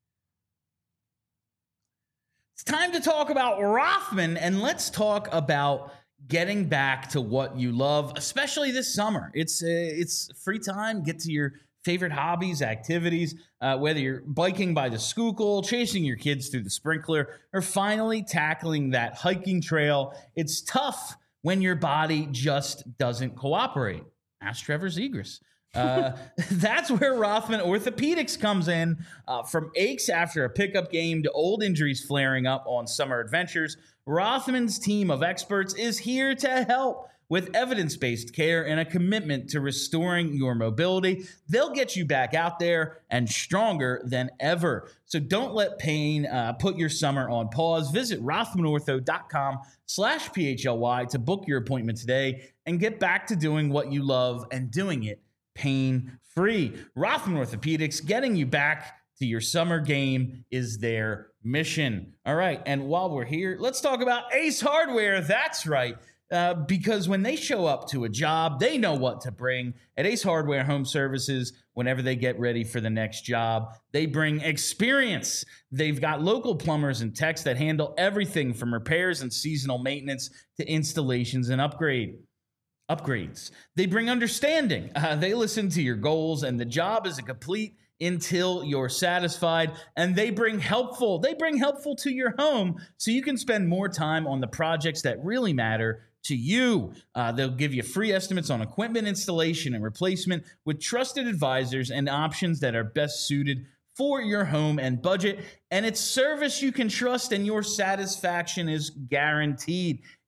Speaker 1: It's time to talk about Rothman, and let's talk about getting back to what you love, especially this summer. It's uh, it's free time. Get to your favorite hobbies, activities, uh, whether you're biking by the Schuylkill, chasing your kids through the sprinkler, or finally tackling that hiking trail. It's tough when your body just doesn't cooperate. Ask Trevor Zegras. Uh, that's where Rothman Orthopedics comes in. Uh, from aches after a pickup game to old injuries flaring up on summer adventures, Rothman's team of experts is here to help with evidence-based care and a commitment to restoring your mobility. They'll get you back out there and stronger than ever. So don't let pain uh, put your summer on pause. Visit rothmanortho.com slash PHLY to book your appointment today and get back to doing what you love and doing it pain-free. Rothman Orthopedics, getting you back to your summer game is their mission. All right, and while we're here, let's talk about Ace Hardware. That's right, uh, because when they show up to a job, they know what to bring. At Ace Hardware Home Services, whenever they get ready for the next job, they bring experience. They've got local plumbers and techs that handle everything from repairs and seasonal maintenance to installations and upgrade. Upgrades. They bring understanding. Uh, they listen to your goals, and the job is a complete until you're satisfied. And they bring helpful. They bring helpful to your home so you can spend more time on the projects that really matter to you. Uh, they'll give you free estimates on equipment installation and replacement with trusted advisors and options that are best suited for your home and budget. And it's service you can trust, and your satisfaction is guaranteed.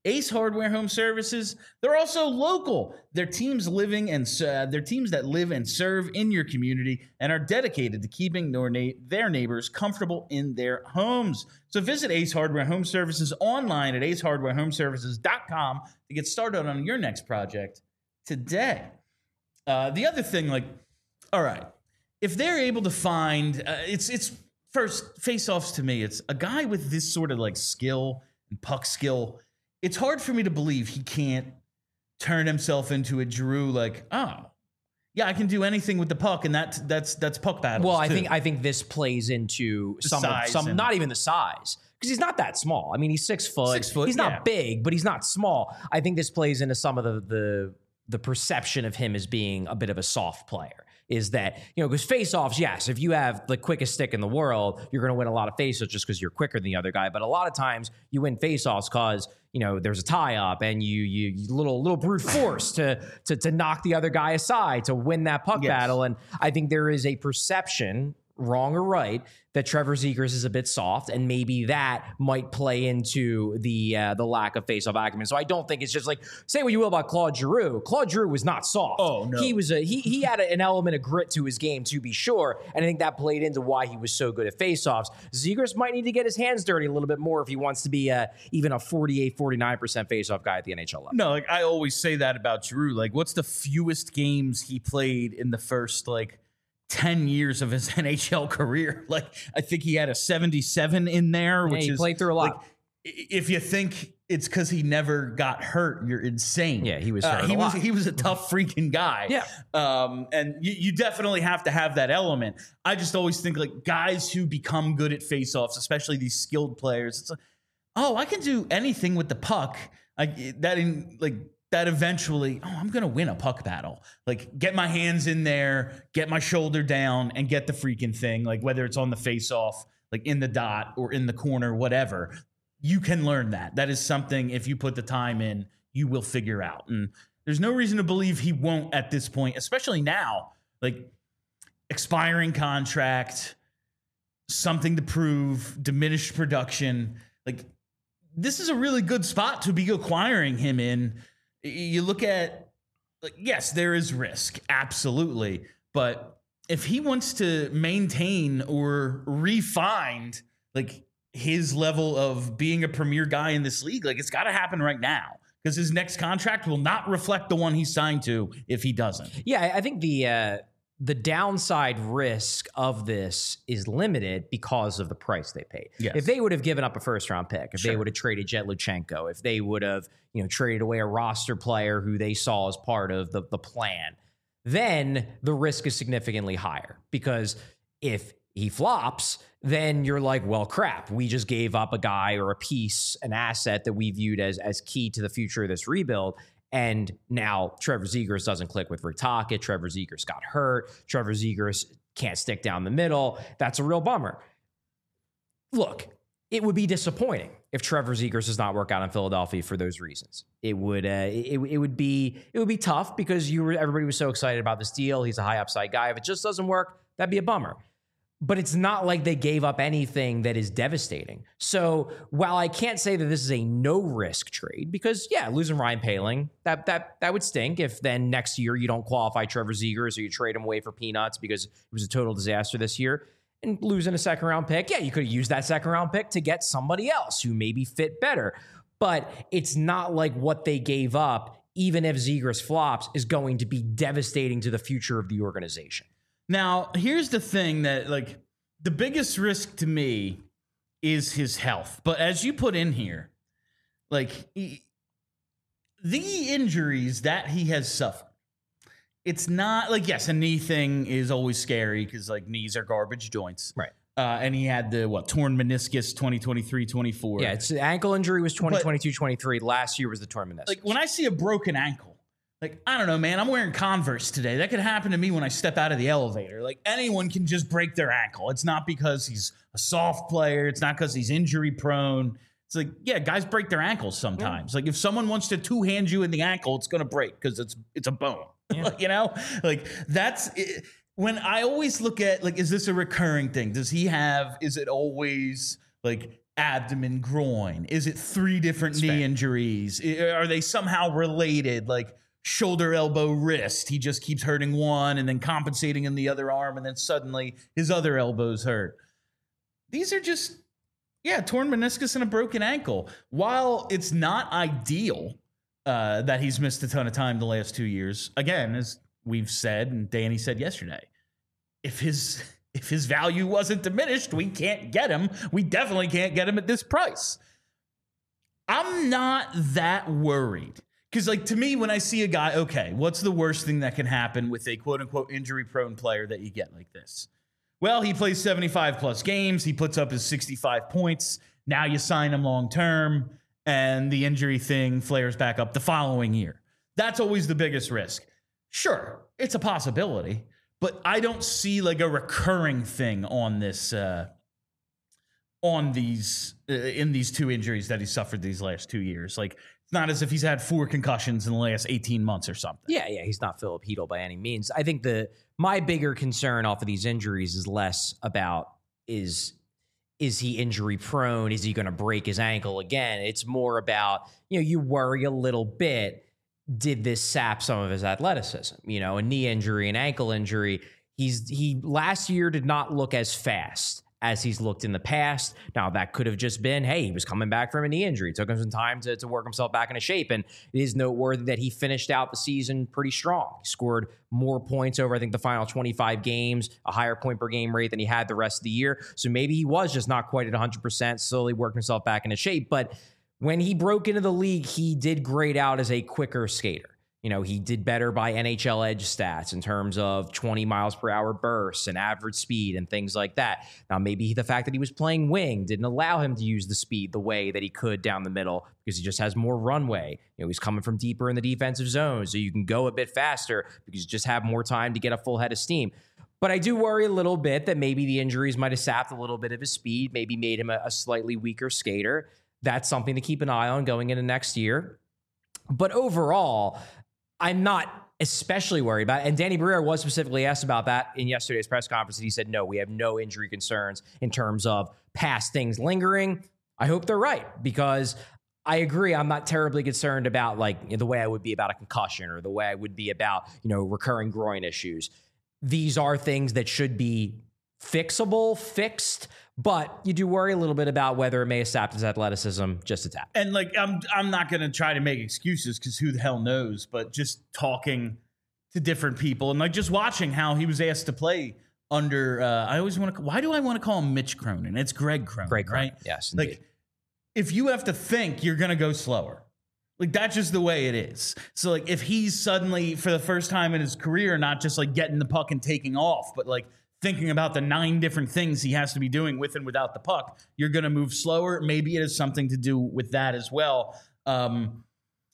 Speaker 1: Ace Hardware Home Services, they're also local. They're teams living and uh, they're teams that live and serve in your community and are dedicated to keeping their, na- their neighbors comfortable in their homes. So visit Ace Hardware Home Services online at ace hardware home services dot com to get started on your next project today. Uh, the other thing, like, all right, if they're able to find, uh, it's it's first face-offs to me. It's a guy with this sort of like skill and puck skill. It's hard for me to believe he can't turn himself into a Giroux. Like, oh, yeah, I can do anything with the puck, and that's that's that's puck battles.
Speaker 2: Well, I
Speaker 1: too.
Speaker 2: think I think this plays into
Speaker 1: The
Speaker 2: some of,
Speaker 1: size
Speaker 2: some
Speaker 1: and-
Speaker 2: not even the size. Because he's not that small. I mean, he's six foot.
Speaker 1: Six foot,
Speaker 2: He's not
Speaker 1: yeah.
Speaker 2: big, but he's not small. I think this plays into some of the the the perception of him as being a bit of a soft player. Is that, you know, because face-offs, yes, if you have the quickest stick in the world, you're going to win a lot of face-offs just because you're quicker than the other guy. But a lot of times you win face-offs because, you know, there's a tie-up and you you, you little little brute force to, to to knock the other guy aside to win that puck
Speaker 1: Yes.
Speaker 2: battle. And I think there is a perception, wrong or right, that Trevor Zegras is a bit soft, and maybe that might play into the uh, the lack of face-off acumen. So I don't think it's just like, say what you will about Claude Giroux. Claude Giroux was not soft.
Speaker 1: Oh, no.
Speaker 2: He was a he he had an element of grit to his game, to be sure, and I think that played into why he was so good at face-offs. Zegras might need to get his hands dirty a little bit more if he wants to be uh, even a forty-eight, forty-nine percent face-off guy at the N H L level.
Speaker 1: No, like I always say that about Giroux. Like, what's the fewest games he played in the first like ten years of his N H L career? Like, I think he had a seventy-seven in there,
Speaker 2: Yeah,
Speaker 1: which
Speaker 2: he
Speaker 1: is
Speaker 2: played through a lot.
Speaker 1: Like, i- if you think it's because he never got hurt, you're insane.
Speaker 2: Yeah, he was
Speaker 1: Uh,
Speaker 2: hurt
Speaker 1: he
Speaker 2: a
Speaker 1: was
Speaker 2: lot.
Speaker 1: he was a tough freaking guy.
Speaker 2: Yeah.
Speaker 1: Um, and you, you definitely have to have that element. I just always think like guys who become good at faceoffs, especially these skilled players, it's like, oh, I can do anything with the puck. I that in like that eventually, oh, I'm gonna win a puck battle. Like, get my hands in there, get my shoulder down, and get the freaking thing. Like, whether it's on the face-off, like in the dot or in the corner, whatever, you can learn that. That is something, if you put the time in, you will figure out. And there's no reason to believe he won't at this point, especially now. Like, expiring contract, something to prove, diminished production. Like, this is a really good spot to be acquiring him in. You look at, like, yes, there is risk, absolutely. But if he wants to maintain or refine, like, his level of being a premier guy in this league, like, it's got to happen right now, because his next contract will not reflect the one he signed to if he doesn't.
Speaker 2: Yeah, I think the uh, the downside risk of this is limited because of the price they paid.
Speaker 1: Yes.
Speaker 2: If they would have given up a first round pick, if they
Speaker 1: Sure.
Speaker 2: would have traded Jet Luchenko, if they would have, you know, traded away a roster player who they saw as part of the, the plan, then the risk is significantly higher. Because if he flops, then you're like, well, crap, we just gave up a guy or a piece, an asset that we viewed as as key to the future of this rebuild. And now Trevor Zegras doesn't click with Rick Tocchet. Trevor Zegras got hurt. Trevor Zegras can't stick down the middle. That's a real bummer. Look, it would be disappointing if Trevor Zegras does not work out in Philadelphia for those reasons. It would, uh, it, it would be, it would be tough because you were, everybody was so excited about this deal. He's a high upside guy. If it just doesn't work, that'd be a bummer. But it's not like they gave up anything that is devastating. So while I can't say that this is a no-risk trade, because, yeah, losing Ryan Poehling, that that that would stink if then next year you don't qualify Trevor Zegras or you trade him away for peanuts because it was a total disaster this year. And losing a second-round pick, yeah, you could have used that second-round pick to get somebody else who maybe fit better. But it's not like what they gave up, even if Zegras flops, is going to be devastating to the future of the organization.
Speaker 1: Now, here's the thing that, like, the biggest risk to me is his health. But as you put in here, like, he, the injuries that he has suffered, it's not like, yes, a knee thing is always scary because, like, knees are garbage joints.
Speaker 2: Right.
Speaker 1: Uh, and he had the, what, torn meniscus twenty twenty-three twenty-four.
Speaker 2: Yeah, it's ankle injury was twenty twenty-two twenty-three. Last year was the torn meniscus.
Speaker 1: Like, when I see a broken ankle, like, I don't know, man, I'm wearing Converse today. That could happen to me when I step out of the elevator. Like, anyone can just break their ankle. It's not because he's a soft player. It's not because he's injury prone. It's like, yeah, guys break their ankles sometimes. Yeah. Like, if someone wants to two-hand you in the ankle, it's going to break because it's it's a bone. Yeah. You know? Like, that's it. When I always look at, like, is this a recurring thing? Does he have, is it always, like, abdomen, groin? Is it three different knee injuries? Are they somehow related? Like shoulder, elbow, wrist. He just keeps hurting one and then compensating in the other arm, and then suddenly his other elbow's hurt. These are just, yeah, torn meniscus and a broken ankle. While it's not ideal uh, that he's missed a ton of time the last two years, again, as we've said and Danny said yesterday, if his if his value wasn't diminished, we can't get him. We definitely can't get him at this price. I'm not that worried. Because, like, to me, when I see a guy, okay, what's the worst thing that can happen with a quote-unquote injury-prone player that you get like this? Well, he plays seventy-five plus games. He puts up his sixty-five points. Now you sign him long-term, and the injury thing flares back up the following year. That's always the biggest risk. Sure, it's a possibility, but I don't see, like, a recurring thing on this, uh, on these, uh, in these two injuries that he suffered these last two years. Like, not as if he's had four concussions in the last eighteen months or something.
Speaker 2: Yeah, yeah, he's not Philip Hedl by any means. I think the my bigger concern off of these injuries is less about is is he injury prone? Is he going to break his ankle again? It's more about, you know, you worry a little bit. Did this sap some of his athleticism? You know, a knee injury, an ankle injury. He's he last year did not look as fast as he's looked in the past. Now, that could have just been, hey, he was coming back from a knee injury. It took him some time to, to work himself back into shape. And it is noteworthy that he finished out the season pretty strong. He scored more points over, I think, the final twenty-five games, a higher point per game rate than he had the rest of the year. So maybe he was just not quite at one hundred percent, slowly working himself back into shape. But when he broke into the league, he did grade out as a quicker skater. You know, he did better by N H L Edge stats in terms of twenty miles per hour bursts and average speed and things like that. Now, maybe the fact that he was playing wing didn't allow him to use the speed the way that he could down the middle because he just has more runway. You know, he's coming from deeper in the defensive zone, so you can go a bit faster because you just have more time to get a full head of steam. But I do worry a little bit that maybe the injuries might have sapped a little bit of his speed, maybe made him a, a slightly weaker skater. That's something to keep an eye on going into next year. But overall, I'm not especially worried about it. And Danny Briere was specifically asked about that in yesterday's press conference. And he said, no, we have no injury concerns in terms of past things lingering. I hope they're right, because I agree. I'm not terribly concerned about, like, you know, the way I would be about a concussion or the way I would be about, you know, recurring groin issues. These are things that should be fixable, fixed, but you do worry a little bit about whether it may have sapped his athleticism just a tap.
Speaker 1: And, like, I'm I'm not going to try to make excuses because who the hell knows, but just talking to different people and, like, just watching how he was asked to play under, uh, I always want to, why do I want to call him Mitch Cronin? It's Greg Cronin,
Speaker 2: Greg Cronin,
Speaker 1: right?
Speaker 2: yes,
Speaker 1: Like,
Speaker 2: indeed.
Speaker 1: if you have to think, you're going to go slower. Like, that's just the way it is. So, like, if he's suddenly, for the first time in his career, not just, like, getting the puck and taking off, but, like, thinking about the nine different things he has to be doing with and without the puck, you're going to move slower. Maybe it has something to do with that as well. Um,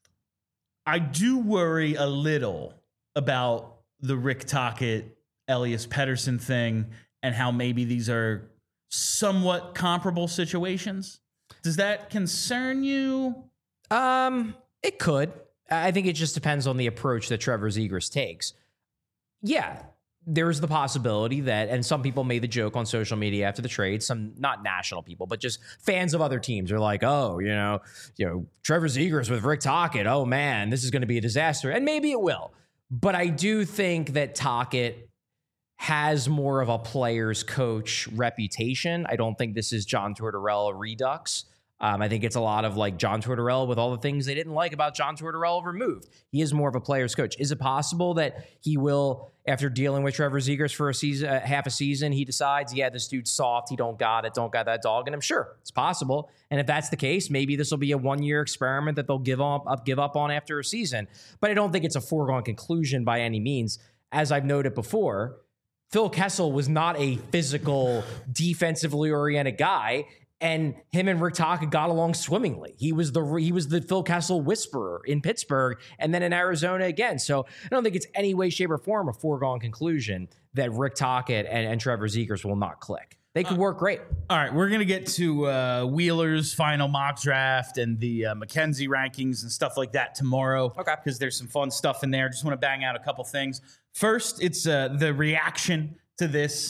Speaker 1: I do worry a little about the Rick Tocchet, Elias Pettersson thing and how maybe these are somewhat comparable situations. Does that concern you?
Speaker 2: Um, it could. I think it just depends on the approach that Trevor Zegras takes. Yeah, there's the possibility that, and some people made the joke on social media after the trade, some not national people, but just fans of other teams are like, oh, you know, you know, Trevor Zegras with Rick Tocchet, oh man, this is going to be a disaster. And maybe it will. But I do think that Tocchet has more of a player's coach reputation. I don't think this is John Tortorella redux. Um, I think it's a lot of like John Tortorella with all the things they didn't like about John Tortorella removed. He is more of a player's coach. Is it possible that he will, after dealing with Trevor Zegras for a season, uh, half a season, he decides, yeah, this dude's soft. He don't got it. Don't got that dog in him. Sure, it's possible. And if that's the case, maybe this will be a one-year experiment that they'll give up, up, give up on after a season. But I don't think it's a foregone conclusion by any means. As I've noted before, Phil Kessel was not a physical, defensively oriented guy. And him and Rick Tocchet got along swimmingly. He was the he was the Phil Kessel whisperer in Pittsburgh and then in Arizona again. So I don't think it's any way, shape, or form a foregone conclusion that Rick Tocchet and, and Trevor Zegras will not click. They could uh, work great.
Speaker 1: All right, we're going to get to uh, Wheeler's final mock draft and the uh, McKenzie rankings and stuff like that tomorrow.
Speaker 2: Okay.
Speaker 1: Because there's some fun stuff in there. Just want to bang out a couple things. First, it's uh, the reaction to this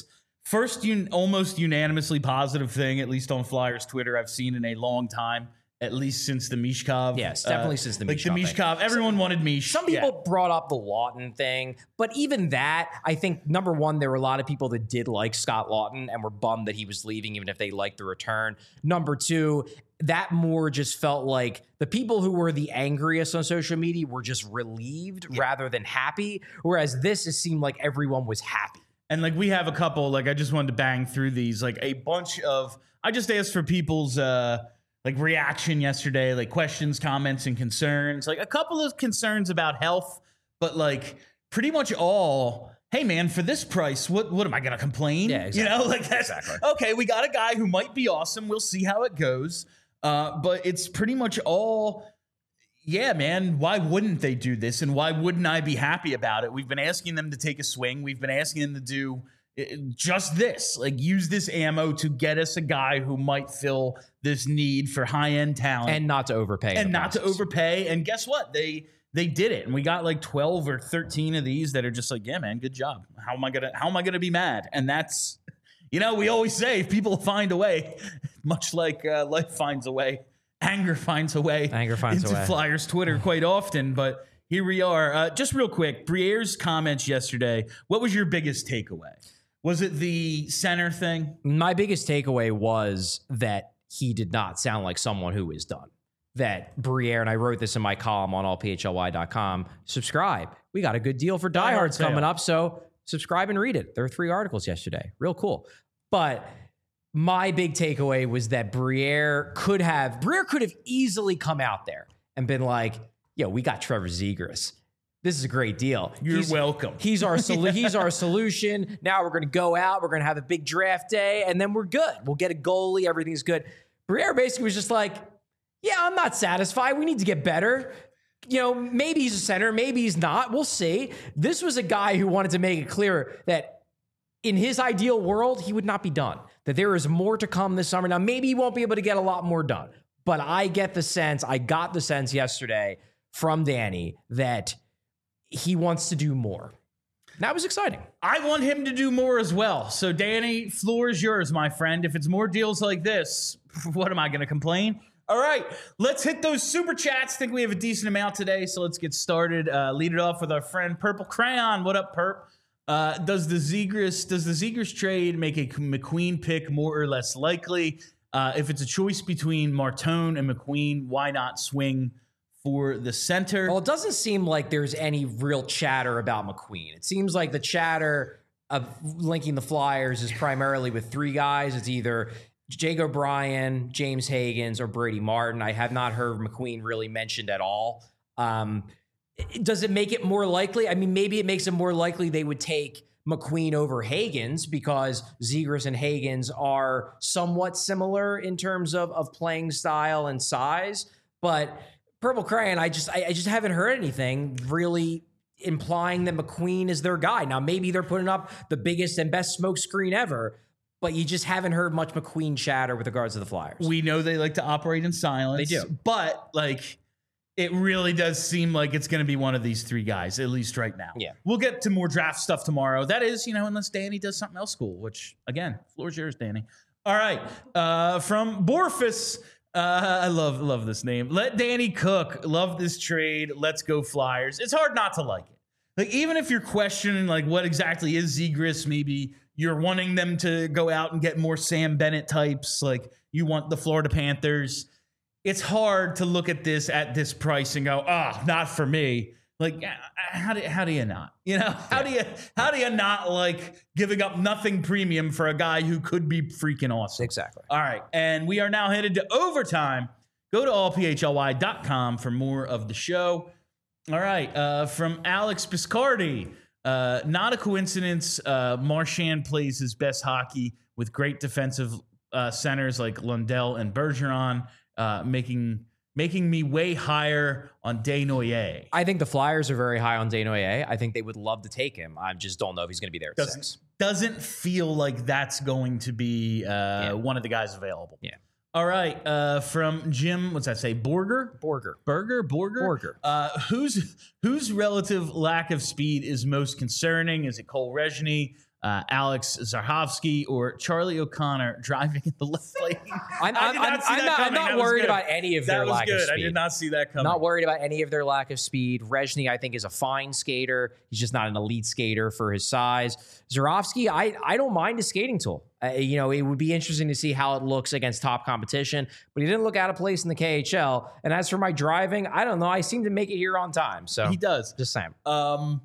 Speaker 1: first un- almost unanimously positive thing, at least on Flyers Twitter, I've seen in a long time. At least since the Mishkov.
Speaker 2: Yes, definitely uh, since the
Speaker 1: like
Speaker 2: Mishkov.
Speaker 1: Like the Mishkov. Thing. Everyone some, wanted Mish.
Speaker 2: Some people yeah. brought up the Lawton thing, but even that, I think, number one, there were a lot of people that did like Scott Lawton and were bummed that he was leaving, even if they liked the return. Number two, that more just felt like the people who were the angriest on social media were just relieved yeah. rather than happy, whereas this, it seemed like everyone was happy.
Speaker 1: And like we have a couple, like I just wanted to bang through these, like a bunch of, I just asked for people's, uh, like reaction yesterday, like questions, comments, and concerns. Like a couple of concerns about health, but like pretty much all, hey man, for this price, what what am I gonna complain?
Speaker 2: Yeah, exactly.
Speaker 1: You know, like that's
Speaker 2: exactly.
Speaker 1: Okay, we got a guy who might be awesome. We'll see how it goes. Uh, but it's pretty much all, yeah, man, why wouldn't they do this? And why wouldn't I be happy about it? We've been asking them to take a swing. We've been asking them to do just this, like use this ammo to get us a guy who might fill this need for high-end talent.
Speaker 2: And not to overpay.
Speaker 1: And not to overpay. And guess what? They they did it. And we got like twelve or thirteen of these that are just like, yeah, man, good job. How am I gonna how am I gonna be mad? And that's, you know, we always say people find a way, much like uh, life finds a way, anger finds a way.
Speaker 2: Anger finds
Speaker 1: into
Speaker 2: a way.
Speaker 1: Flyers Twitter quite often, but here we are. Uh, just real quick, Briere's comments yesterday. What was your biggest takeaway? Was it the center thing?
Speaker 2: My biggest takeaway was that he did not sound like someone who is done. That Briere, and I wrote this in my column on all p h l y dot com, subscribe. We got a good deal for diehards coming up, so subscribe and read it. There were three articles yesterday. Real cool. But my big takeaway was that Briere could have, Briere could have easily come out there and been like, yo, we got Trevor Zegras. This is a great deal.
Speaker 1: You're
Speaker 2: he's,
Speaker 1: welcome.
Speaker 2: He's our solu- he's our solution. Now we're going to go out. We're going to have a big draft day, and then we're good. We'll get a goalie. Everything's good. Briere basically was just like, yeah, I'm not satisfied. We need to get better. You know, maybe he's a center. Maybe he's not. We'll see. This was a guy who wanted to make it clear that in his ideal world, he would not be done. That there is more to come this summer. Now, maybe he won't be able to get a lot more done. But I get the sense, I got the sense yesterday from Danny that he wants to do more. That was exciting.
Speaker 1: I want him to do more as well. So, Danny, floor is yours, my friend. If it's more deals like this, what am I going to complain? All right, let's hit those super chats. I think we have a decent amount today, so let's get started. Uh, lead it off with our friend Purple Crayon. What up, Perp? Uh, does the Zegras does the Zegras trade make a McQueen pick more or less likely? Uh, if it's a choice between Martone and McQueen, why not swing for the center?
Speaker 2: Well, it doesn't seem like there's any real chatter about McQueen. It seems like the chatter of linking the Flyers is primarily with three guys. It's either Jake O'Brien, James Higgins, or Brady Martin. I have not heard McQueen really mentioned at all. Um, does it make it more likely? I mean, maybe it makes it more likely they would take McQueen over Higgins because Zegras and Higgins are somewhat similar in terms of, of playing style and size. But Purple Crayon, I just I, I just haven't heard anything really implying that McQueen is their guy. Now, maybe they're putting up the biggest and best smoke screen ever, but you just haven't heard much McQueen chatter with regards to the Flyers.
Speaker 1: We know they like to operate in silence.
Speaker 2: They do.
Speaker 1: But, like, it really does seem like it's going to be one of these three guys, at least right now.
Speaker 2: Yeah.
Speaker 1: We'll get to more draft stuff tomorrow. That is, you know, unless Danny does something else cool, which, again, floor's yours, Danny. All right. Uh, from Borfus, uh, I love love this name. Let Danny cook. Love this trade. Let's go Flyers. It's hard not to like it. Like, even if you're questioning, like, what exactly is Zegras, maybe you're wanting them to go out and get more Sam Bennett types, like you want the Florida Panthers. It's hard to look at this at this price and go, ah, oh, not for me. Like, how do how do you not? You know, how do you how do you not like giving up nothing premium for a guy who could be freaking awesome?
Speaker 2: Exactly.
Speaker 1: All right, and we are now headed to overtime. Go to all p h l y dot com for more of the show. All right, uh, from Alex Piscardi. Uh, not a coincidence. Uh, Marchand plays his best hockey with great defensive uh, centers like Lundell and Bergeron, uh, making making me way higher on Desnoyers.
Speaker 2: I think the Flyers are very high on Desnoyers. I think they would love to take him. I just don't know if he's going to be there at
Speaker 1: doesn't,
Speaker 2: six.
Speaker 1: Doesn't feel like that's going to be uh,
Speaker 2: yeah.
Speaker 1: one of the guys available.
Speaker 2: Yeah.
Speaker 1: All right, uh, from Jim, what's that say? Borger?
Speaker 2: Borger.
Speaker 1: Burger? Borger?
Speaker 2: Borger.
Speaker 1: Uh, whose whose relative lack of speed is most concerning? Is it Cole Rezny, uh, Alex Zarhovsky or Charlie O'Connor driving in the left lane.
Speaker 2: I'm,
Speaker 1: I
Speaker 2: I'm,
Speaker 1: did not
Speaker 2: I'm,
Speaker 1: see
Speaker 2: I'm
Speaker 1: that
Speaker 2: not, I'm
Speaker 1: coming.
Speaker 2: not
Speaker 1: That was
Speaker 2: worried
Speaker 1: good.
Speaker 2: about any of
Speaker 1: That
Speaker 2: their
Speaker 1: was
Speaker 2: lack
Speaker 1: good.
Speaker 2: of speed.
Speaker 1: I did not see that coming.
Speaker 2: Not worried about any of their lack of speed. Rezhny, I think, is a fine skater. He's just not an elite skater for his size. Zarhovsky, I, I don't mind his skating tool. Uh, you know, it would be interesting to see how it looks against top competition, but he didn't look out of place in the K H L. And as for my driving, I don't know. I seem to make it here on time. So
Speaker 1: He does.
Speaker 2: just saying.
Speaker 1: Um,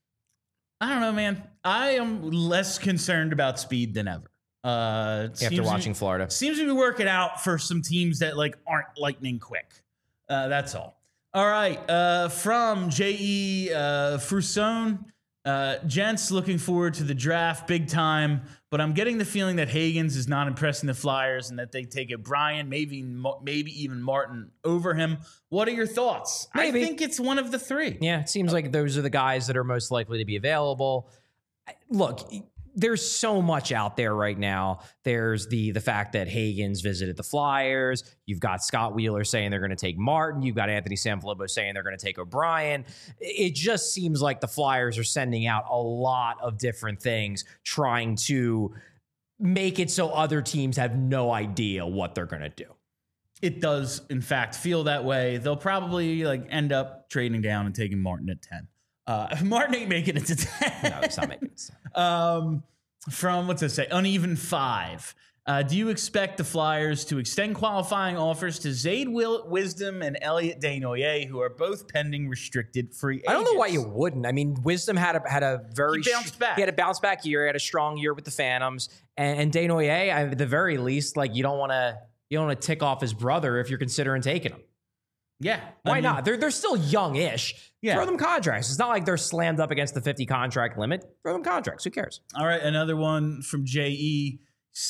Speaker 1: I don't know, man. I am less concerned about speed than ever. Uh, it
Speaker 2: After
Speaker 1: seems
Speaker 2: watching
Speaker 1: to,
Speaker 2: Florida.
Speaker 1: seems to be working out for some teams that like aren't lightning quick. Uh, that's all. All right. Uh, from J E uh, Frusone, uh, gents, looking forward to the draft big time. But I'm getting the feeling that Higgins is not impressing the Flyers and that they take O'Brien, maybe maybe even Martin over him. What are your thoughts?
Speaker 2: Maybe.
Speaker 1: I think it's one of the three.
Speaker 2: Yeah, it seems like those are the guys that are most likely to be available. Look, there's so much out there right now. There's the the fact that Higgins visited the Flyers. You've got Scott Wheeler saying they're going to take Martin. You've got Anthony Sanfilippo saying they're going to take O'Brien. It just seems like the Flyers are sending out a lot of different things, trying to make it so other teams have no idea what they're going to do.
Speaker 1: It does, in fact, feel that way. They'll probably like end up trading down and taking Martin at ten. Uh, Martin ain't making it to ten.
Speaker 2: No, it's not making sense.
Speaker 1: um, from, what's it say? Uneven five. Uh, do you expect the Flyers to extend qualifying offers to Zayd Will- Wisdom and Elliot Desnoyers, who are both pending restricted free agents?
Speaker 2: I don't know why you wouldn't. I mean, Wisdom had a had a very
Speaker 1: He bounced back.
Speaker 2: He had a bounce back year. He had a strong year with the Phantoms, and, and Desnoyers, at the very least, like you don't want to you don't want to tick off his brother if you're considering taking him.
Speaker 1: Yeah.
Speaker 2: Why
Speaker 1: I mean,
Speaker 2: not? They're they're still young-ish.
Speaker 1: Yeah.
Speaker 2: Throw them contracts. It's not like they're slammed up against the fifty contract limit. Throw them contracts. Who cares?
Speaker 1: All right, another one from J E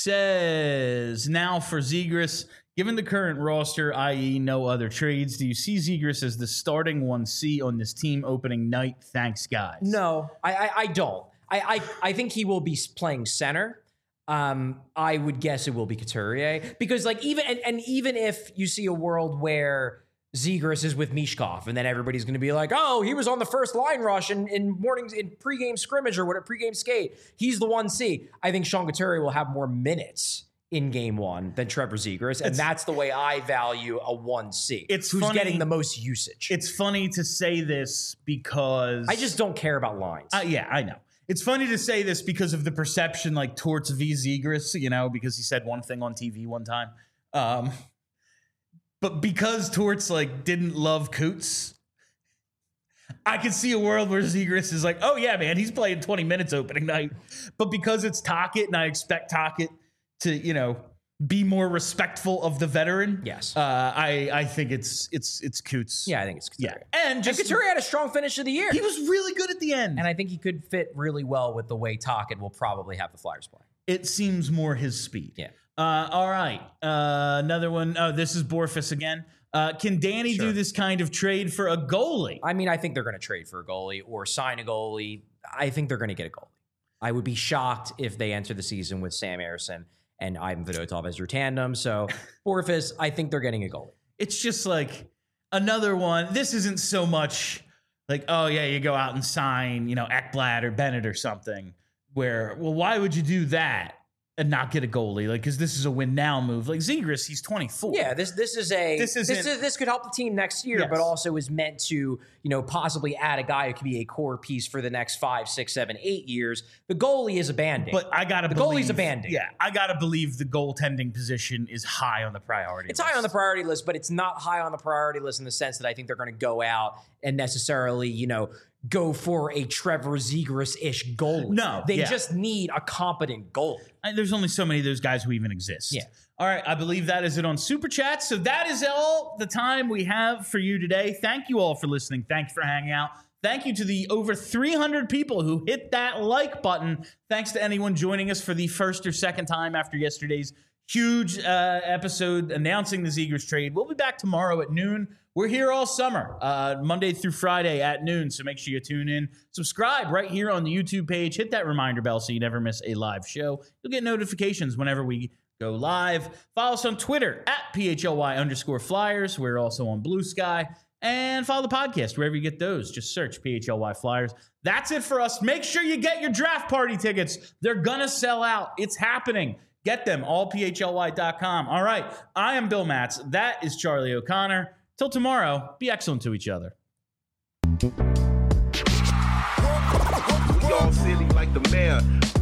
Speaker 1: says, now for Zegras, given the current roster, that is no other trades, do you see Zegras as the starting one C on this team opening night? Thanks, guys.
Speaker 2: No, I I, I don't. I, I I think he will be playing center. Um, I would guess it will be Couturier because, like, even and, and even if you see a world where Zegras is with Mishkov, and then everybody's going to be like, "Oh, he was on the first line rush in, in mornings in pregame scrimmage or what a pregame skate. He's the one C." I think Sean Couturier will have more minutes in game one than Trevor Zegras, and
Speaker 1: It's-
Speaker 2: that's the way I value a one C.
Speaker 1: It's
Speaker 2: who's
Speaker 1: funny-
Speaker 2: getting the most usage.
Speaker 1: It's funny to say this because
Speaker 2: I just don't care about lines.
Speaker 1: Uh, yeah, I know. It's funny to say this because of the perception, like Torts v. Zegras, you know, because he said one thing on T V one time. Um, but because Torts like didn't love Coots, I could see a world where Zegras is like, oh yeah, man, he's playing twenty minutes opening night. But because it's Tocchet, and I expect Tocchet to, you know, be more respectful of the veteran.
Speaker 2: Yes.
Speaker 1: uh, I I think it's it's it's Coots.
Speaker 2: yeah, I think it's
Speaker 1: yeah,
Speaker 2: Couturier.
Speaker 1: and
Speaker 2: And
Speaker 1: just
Speaker 2: Couturier had a strong finish of the year.
Speaker 1: he was really good at the end.
Speaker 2: And I think he could fit really well with the way Tocchet will probably have the Flyers play.
Speaker 1: It seems more his speed.
Speaker 2: Yeah.
Speaker 1: Uh, all right. Uh, another one. Oh, this is Borfus again. Uh, can Danny
Speaker 2: Sure.
Speaker 1: do this kind of trade for a goalie?
Speaker 2: I mean, I think they're going to trade for a goalie or sign a goalie. I think they're going to get a goalie. I would be shocked if they enter the season with Sam Ersson and Ivan Fedotov as your tandem. So, Borfus, I think they're getting a goalie.
Speaker 1: It's just like another one. This isn't so much like, oh, yeah, you go out and sign, you know, Ekblad or Bennett or something where, well, why would you do that and not get a goalie? Like, because this is a win now move. Like Zegras, he's twenty-four.
Speaker 2: Yeah, this this is a
Speaker 1: This
Speaker 2: this
Speaker 1: isn't-
Speaker 2: is, this could help the team next year,
Speaker 1: Yes.
Speaker 2: but also is meant to, you know, possibly add a guy who could be a core piece for the next five, six, seven, eight years. The goalie is a band-aid.
Speaker 1: But I gotta
Speaker 2: The
Speaker 1: believe
Speaker 2: goalie's a Band-Aid.
Speaker 1: Yeah, I gotta believe the goaltending position is high on the priority.
Speaker 2: It's
Speaker 1: list.
Speaker 2: high on the priority list, but it's not high on the priority list in the sense that I think they're going to go out and necessarily, you know, go for a Trevor Zegras-ish goalie.
Speaker 1: No,
Speaker 2: They
Speaker 1: yeah.
Speaker 2: just need a competent goalie.
Speaker 1: I- there's only so many of those guys who even exist.
Speaker 2: Yeah.
Speaker 1: All right. I believe that is it on Super Chat. So that is all the time we have for you today. Thank you all for listening. Thank you for hanging out. Thank you to the over three hundred people who hit that like button. Thanks to anyone joining us for the first or second time after yesterday's huge uh, episode announcing the Zegras trade. We'll be back tomorrow at noon. We're here all summer, uh, Monday through Friday at noon. So make sure you tune in. Subscribe right here on the YouTube page. Hit that reminder bell so you never miss a live show. You'll get notifications whenever we go live. Follow us on Twitter at P H L Y underscore Flyers. We're also on Blue Sky And follow the podcast wherever you get those. Just search P H L Y Flyers. That's it for us. Make sure you get your draft party tickets. They're going to sell out. It's happening. Get them, all P H L Y dot com. All right, I am Bill Matz. That is Charlie O'Connor. Till tomorrow, be excellent to each other.
Speaker 4: We all silly like the mayor.